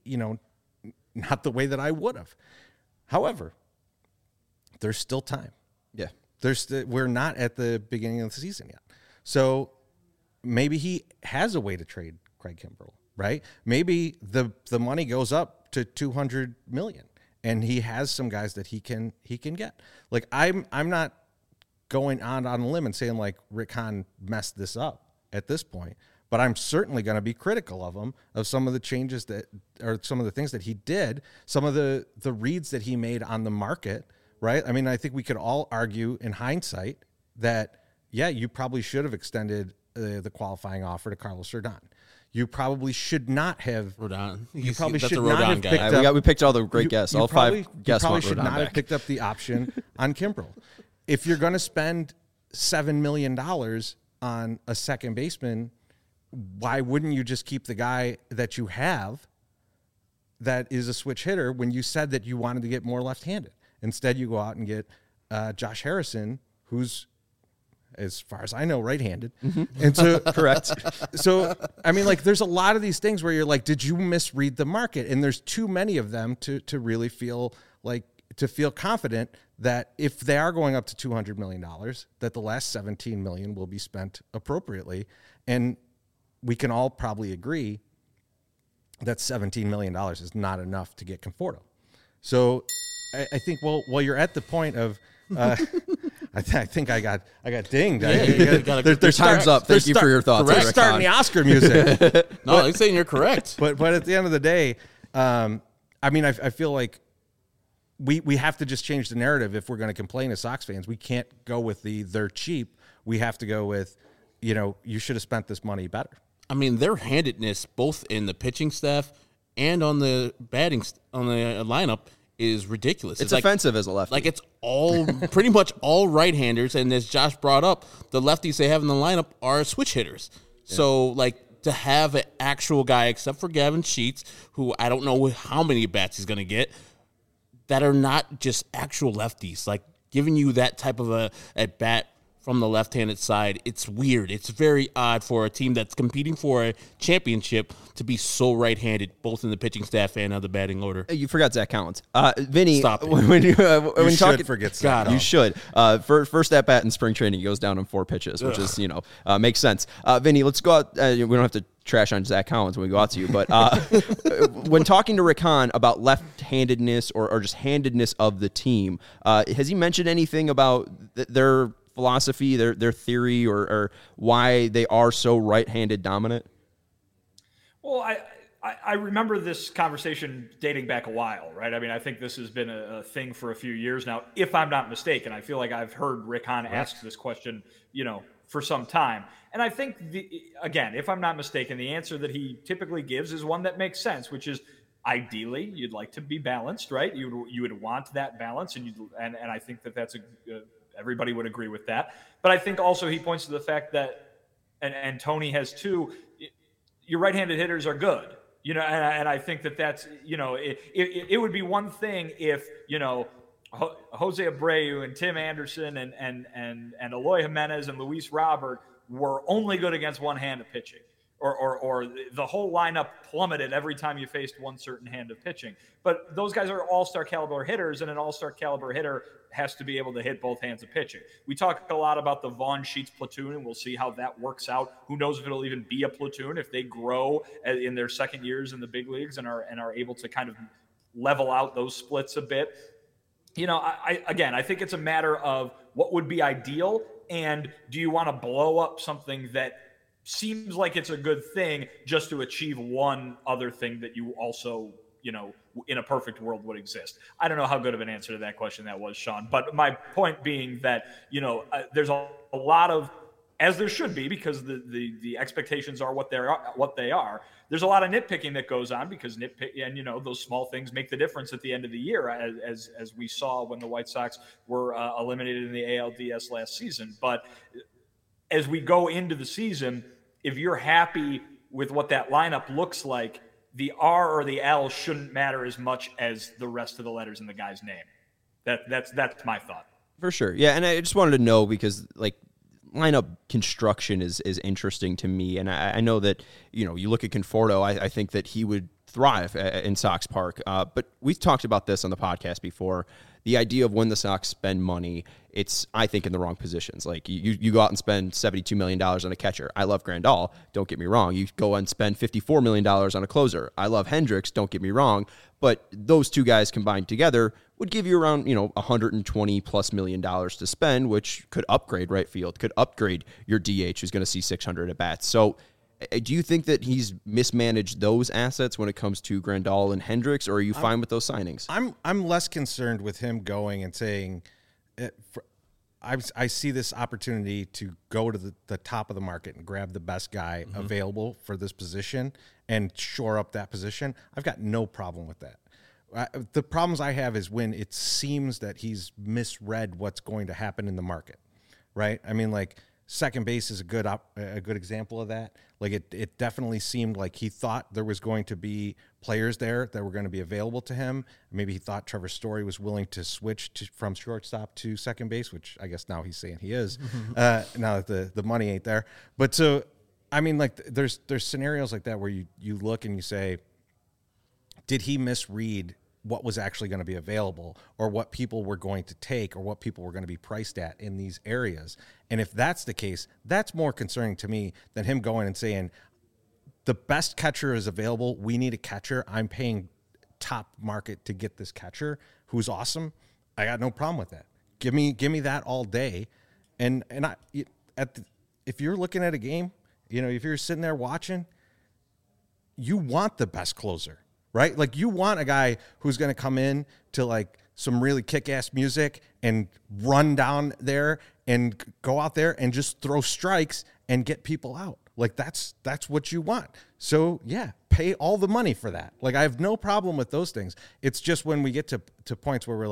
Speaker 2: not the way that I would have. However, there's still time.
Speaker 1: Yeah.
Speaker 2: We're not at the beginning of the season yet. So maybe he has a way to trade Craig Kimbrell, right? Maybe the money goes up to $200 million and he has some guys that he can get. Like I'm not going on a limb and saying like Rick Hahn messed this up at this point, but I'm certainly going to be critical of him, of some of the changes or some of the things that he did, some of the reads that he made on the market. Right? I mean, I think we could all argue in hindsight that, yeah, you probably should have extended the qualifying offer to Carlos Rodon. You probably should not have.
Speaker 3: Rodon.
Speaker 2: You probably
Speaker 3: That's
Speaker 2: should
Speaker 3: a
Speaker 2: not
Speaker 3: Rodon
Speaker 2: have
Speaker 3: guy.
Speaker 2: picked up.
Speaker 1: We picked all the great guests. All
Speaker 2: probably,
Speaker 1: 5 guests
Speaker 2: you probably
Speaker 1: want
Speaker 2: should
Speaker 1: Rodon
Speaker 2: not
Speaker 1: back.
Speaker 2: have picked up the option on Kimbrell. If you're going to spend $7 million on a second baseman, why wouldn't you just keep the guy that you have that is a switch hitter when you said that you wanted to get more left-handed? Instead, you go out and get Josh Harrison, who's, as far as I know, right-handed. Mm-hmm. And so, correct. So, I mean, like, there's a lot of these things where you're like, did you misread the market? And there's too many of them to really feel confident that if they are going up to $200 million, that the last $17 million will be spent appropriately. And we can all probably agree that $17 million is not enough to get Conforto. So I think, well, you're at the point of I think I got dinged.
Speaker 3: Their
Speaker 1: time's up. Thank you for your thoughts.
Speaker 2: They're starting the Oscar music.
Speaker 3: No, I'm saying you're correct.
Speaker 2: But at the end of the day, I mean, I feel like we have to just change the narrative if we're going to complain as Sox fans. We can't go with they're cheap. We have to go with, you should have spent this money better.
Speaker 3: I mean, their handedness, both in the pitching staff and on the batting on the lineup, is ridiculous.
Speaker 1: It's offensive as a lefty.
Speaker 3: Like, it's all pretty much all right-handers, and as Josh brought up, the lefties they have in the lineup are switch hitters. Yeah. So, like, to have an actual guy, except for Gavin Sheets, who I don't know how many bats he's going to get, that are not just actual lefties, like giving you that type of a at-bat from the left-handed side, it's weird. It's very odd for a team that's competing for a championship to be so right-handed, both in the pitching staff and on the batting order.
Speaker 1: You forgot Zach Collins. Vinny,
Speaker 3: Stop it.
Speaker 1: when you
Speaker 2: should forget Zach.
Speaker 1: You should. First at-bat in spring training, he goes down on 4 pitches, which is, makes sense. Vinny, let's go out. We don't have to trash on Zach Collins when we go out to you, but when talking to Rick Hahn about left-handedness or just handedness of the team, has he mentioned anything about their philosophy, their theory, or why they are so right-handed dominant?
Speaker 4: Well, I remember this conversation dating back a while, right? I mean, I think this has been a thing for a few years now, if I'm not mistaken. I feel like I've heard Rick Hahn ask this question, for some time. And I think, again, if I'm not mistaken, the answer that he typically gives is one that makes sense, which is ideally you'd like to be balanced, right? You would want that balance, and I think that's everybody would agree with that. But I think also he points to the fact that, and Tony has too, your right-handed hitters are good, and I think that's, it would be one thing if, Jose Abreu and Tim Anderson and Eloy Jimenez and Luis Robert were only good against one hand of pitching, or the whole lineup plummeted every time you faced one certain hand of pitching. But those guys are all-star caliber hitters, and an all-star caliber hitter has to be able to hit both hands of pitching. We talk a lot about the Vaughn Sheets platoon, and we'll see how that works out. Who knows if it'll even be a platoon if they grow in their second years in the big leagues and are able to kind of level out those splits a bit. I think it's a matter of what would be ideal, and do you want to blow up something that seems like it's a good thing just to achieve one other thing that you also, in a perfect world would exist? I don't know how good of an answer to that question that was, Sean, but my point being that, there's a lot of, as there should be, because the expectations are what they are. There's a lot of nitpicking that goes on because those small things make the difference at the end of the year, as we saw when the White Sox were eliminated in the ALDS last season. But as we go into the season, if you're happy with what that lineup looks like, the R or the L shouldn't matter as much as the rest of the letters in the guy's name. That's my thought.
Speaker 1: For sure. Yeah, and I just wanted to know because, lineup construction is interesting to me, and I know that you look at Conforto. I think that he would thrive in Sox Park, but we've talked about this on the podcast before. The idea of when the Sox spend money, it's, I think, in the wrong positions. Like, you go out and spend $72 million on a catcher. I love Grandal. Don't get me wrong. You go and spend $54 million on a closer. I love Hendricks. Don't get me wrong. But those two guys combined together would give you around, $120+ million to spend, which could upgrade right field, could upgrade your DH, who's going to see 600 at bats. So do you think that he's mismanaged those assets when it comes to Grandal and Hendricks, or are you fine with those signings?
Speaker 2: I'm less concerned with him going and saying, I see this opportunity to go to the top of the market and grab the best guy available for this position and shore up that position. I've got no problem with that. The problems I have is when it seems that he's misread what's going to happen in the market, right? I mean, second base is a good example of that. It definitely seemed like he thought there was going to be players there that were going to be available to him. Maybe he thought Trevor Story was willing to switch from shortstop to second base, which I guess now he's saying he is. Now that the money ain't there. But so, I mean, there's scenarios like that where you look and you say, did he misread what was actually going to be available, or what people were going to take, or what people were going to be priced at in these areas? And if that's the case, that's more concerning to me than him going and saying, the best catcher is available. We need a catcher. I'm paying top market to get this catcher who's awesome. I got no problem with that. give me that all day. And if you're looking at a game, if you're sitting there watching, you want the best closer, right? Like you want a guy who's going to come in to like some really kick-ass music and run down there and go out there and just throw strikes and get people out. Like that's what you want. So yeah, pay all the money for that. Like I have no problem with those things. It's just when we get to points where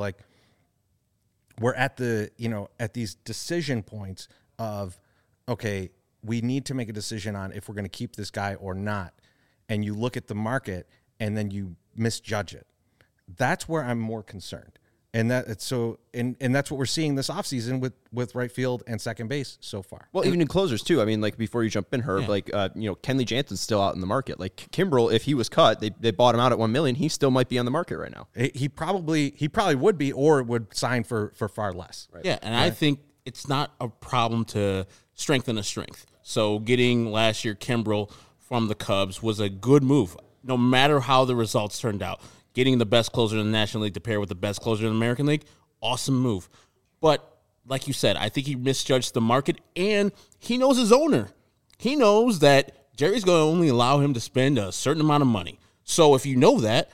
Speaker 2: we're at at these decision points of, okay, we need to make a decision on if we're going to keep this guy or not. And you look at the market and then you misjudge it. That's where I'm more concerned. And that's what we're seeing this offseason with right field and second base so far.
Speaker 1: Well, even in closers too. I mean, like before you jump in, Herb, Kenley Jansen's still out in the market. Like Kimbrel, if he was cut, they bought him out at $1 million. He still might be on the market right now.
Speaker 2: He probably would be, or would sign for far less.
Speaker 3: Right? Yeah, and I think it's not a problem to strengthen a strength. So getting last year Kimbrel from the Cubs was a good move, no matter how the results turned out. Getting the best closer in the National League to pair with the best closer in the American League, awesome move. But like you said, I think he misjudged the market, and he knows his owner. He knows that Jerry's going to only allow him to spend a certain amount of money. So if you know that,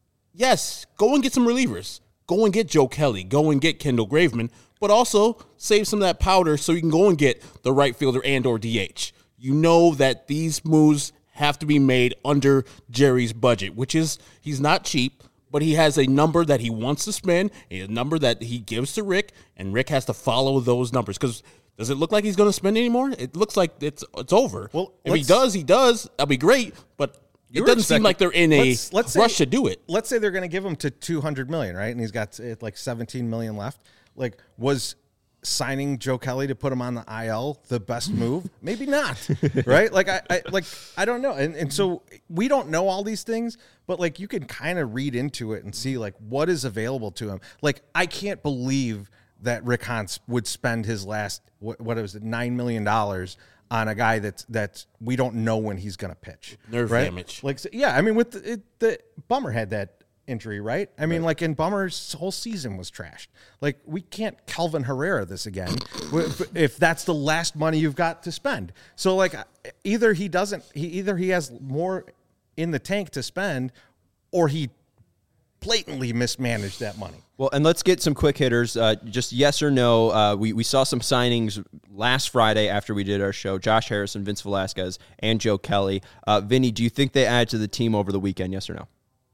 Speaker 3: yes, go and get some relievers. Go and get Joe Kelly. Go and get Kendall Graveman. But also save some of that powder so you can go and get the right fielder and or DH. You know that these moves have to be made under Jerry's budget, which is he's not cheap, but he has a number that he wants to spend, a number that he gives to Rick, and Rick has to follow those numbers. Because does it look like he's going to spend anymore? It looks like it's over. Well, if he does. That'll be great, but it doesn't seem like they're in a rush to do it.
Speaker 2: Let's say they're going to give him to $200 million, right? And he's got like $17 million left. Like, was signing Joe Kelly to put him on the IL the best move? Maybe not, right? Like I don't know, and so we don't know all these things, but like you can kind of read into it and see like what is available to him. Like I can't believe that Rick Hahn would spend his last what was it $9 million on a guy that's we don't know when he's going to pitch.
Speaker 3: Nerve damage.
Speaker 2: Like yeah, I mean with the Bummer had that injury, right? I mean, like in Bummer's whole season was trashed. Like we can't Calvin Herrera this again if that's the last money you've got to spend. So like either he has more in the tank to spend, or he blatantly mismanaged that money.
Speaker 1: Well, and let's get some quick hitters. Just yes or no. We saw some signings last Friday after we did our show. Josh Harrison, Vince Velasquez, and Joe Kelly. Vinny, do you think they add to the team over the weekend? Yes or no?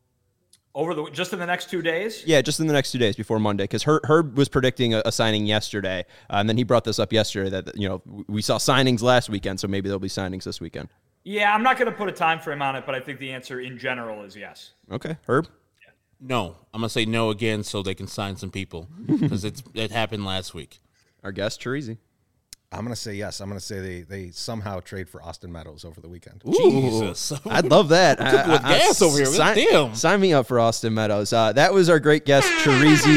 Speaker 4: Just in the next 2 days?
Speaker 1: Yeah, just in the next 2 days before Monday, because Herb was predicting a signing yesterday, and then he brought this up yesterday that we saw signings last weekend, so maybe there'll be signings this weekend.
Speaker 4: Yeah, I'm not going to put a time frame on it, but I think the answer in general is yes.
Speaker 1: Okay, Herb?
Speaker 4: Yeah.
Speaker 3: No, I'm going to say no again so they can sign some people, because it happened last week.
Speaker 1: Our guest, Chirizi.
Speaker 2: I'm going to say yes. I'm going to say they somehow trade for Austin Meadows over the weekend.
Speaker 1: Ooh, Jesus. I'd love that.
Speaker 3: With gas over here. Damn.
Speaker 1: Sign me up for Austin Meadows. That was our great guest, Chirizi.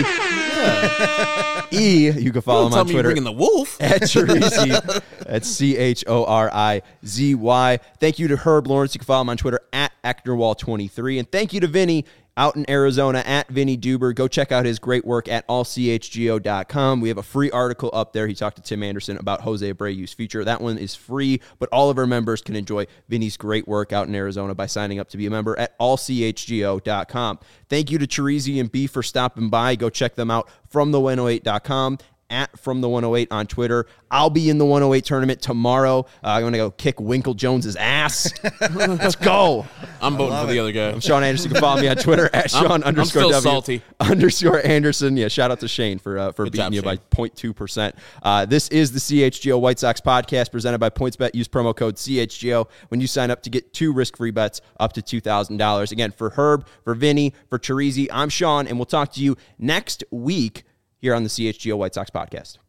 Speaker 1: You can follow him on Twitter.
Speaker 3: Bringing the wolf.
Speaker 1: At Chirizi. That's CHORIZY. Thank you to Herb Lawrence. You can follow him on Twitter at Ecknerwall23. And thank you to Vinny out in Arizona at Vinny Duber. Go check out his great work at allchgo.com. We have a free article up there. He talked to Tim Anderson about Jose Abreu's future. That one is free, but all of our members can enjoy Vinny's great work out in Arizona by signing up to be a member at allchgo.com. Thank you to Chirizi and B for stopping by. Go check them out from the108.com. At From the 108 on Twitter. I'll be in the 108 tournament tomorrow. I'm going to go kick Winkle Jones's ass. Let's go.
Speaker 3: I'm voting for the other guy.
Speaker 1: I'm Sean Anderson. You can follow me on Twitter at Sean
Speaker 3: I'm still salty.
Speaker 1: _Anderson. Yeah, shout out to Shane for beating you by 0.2%. This is the CHGO White Sox podcast presented by PointsBet. Use promo code CHGO when you sign up to get 2 risk-free bets up to $2,000. Again, for Herb, for Vinny, for Chirizi, I'm Sean, and we'll talk to you next week here on the CHGO White Sox podcast.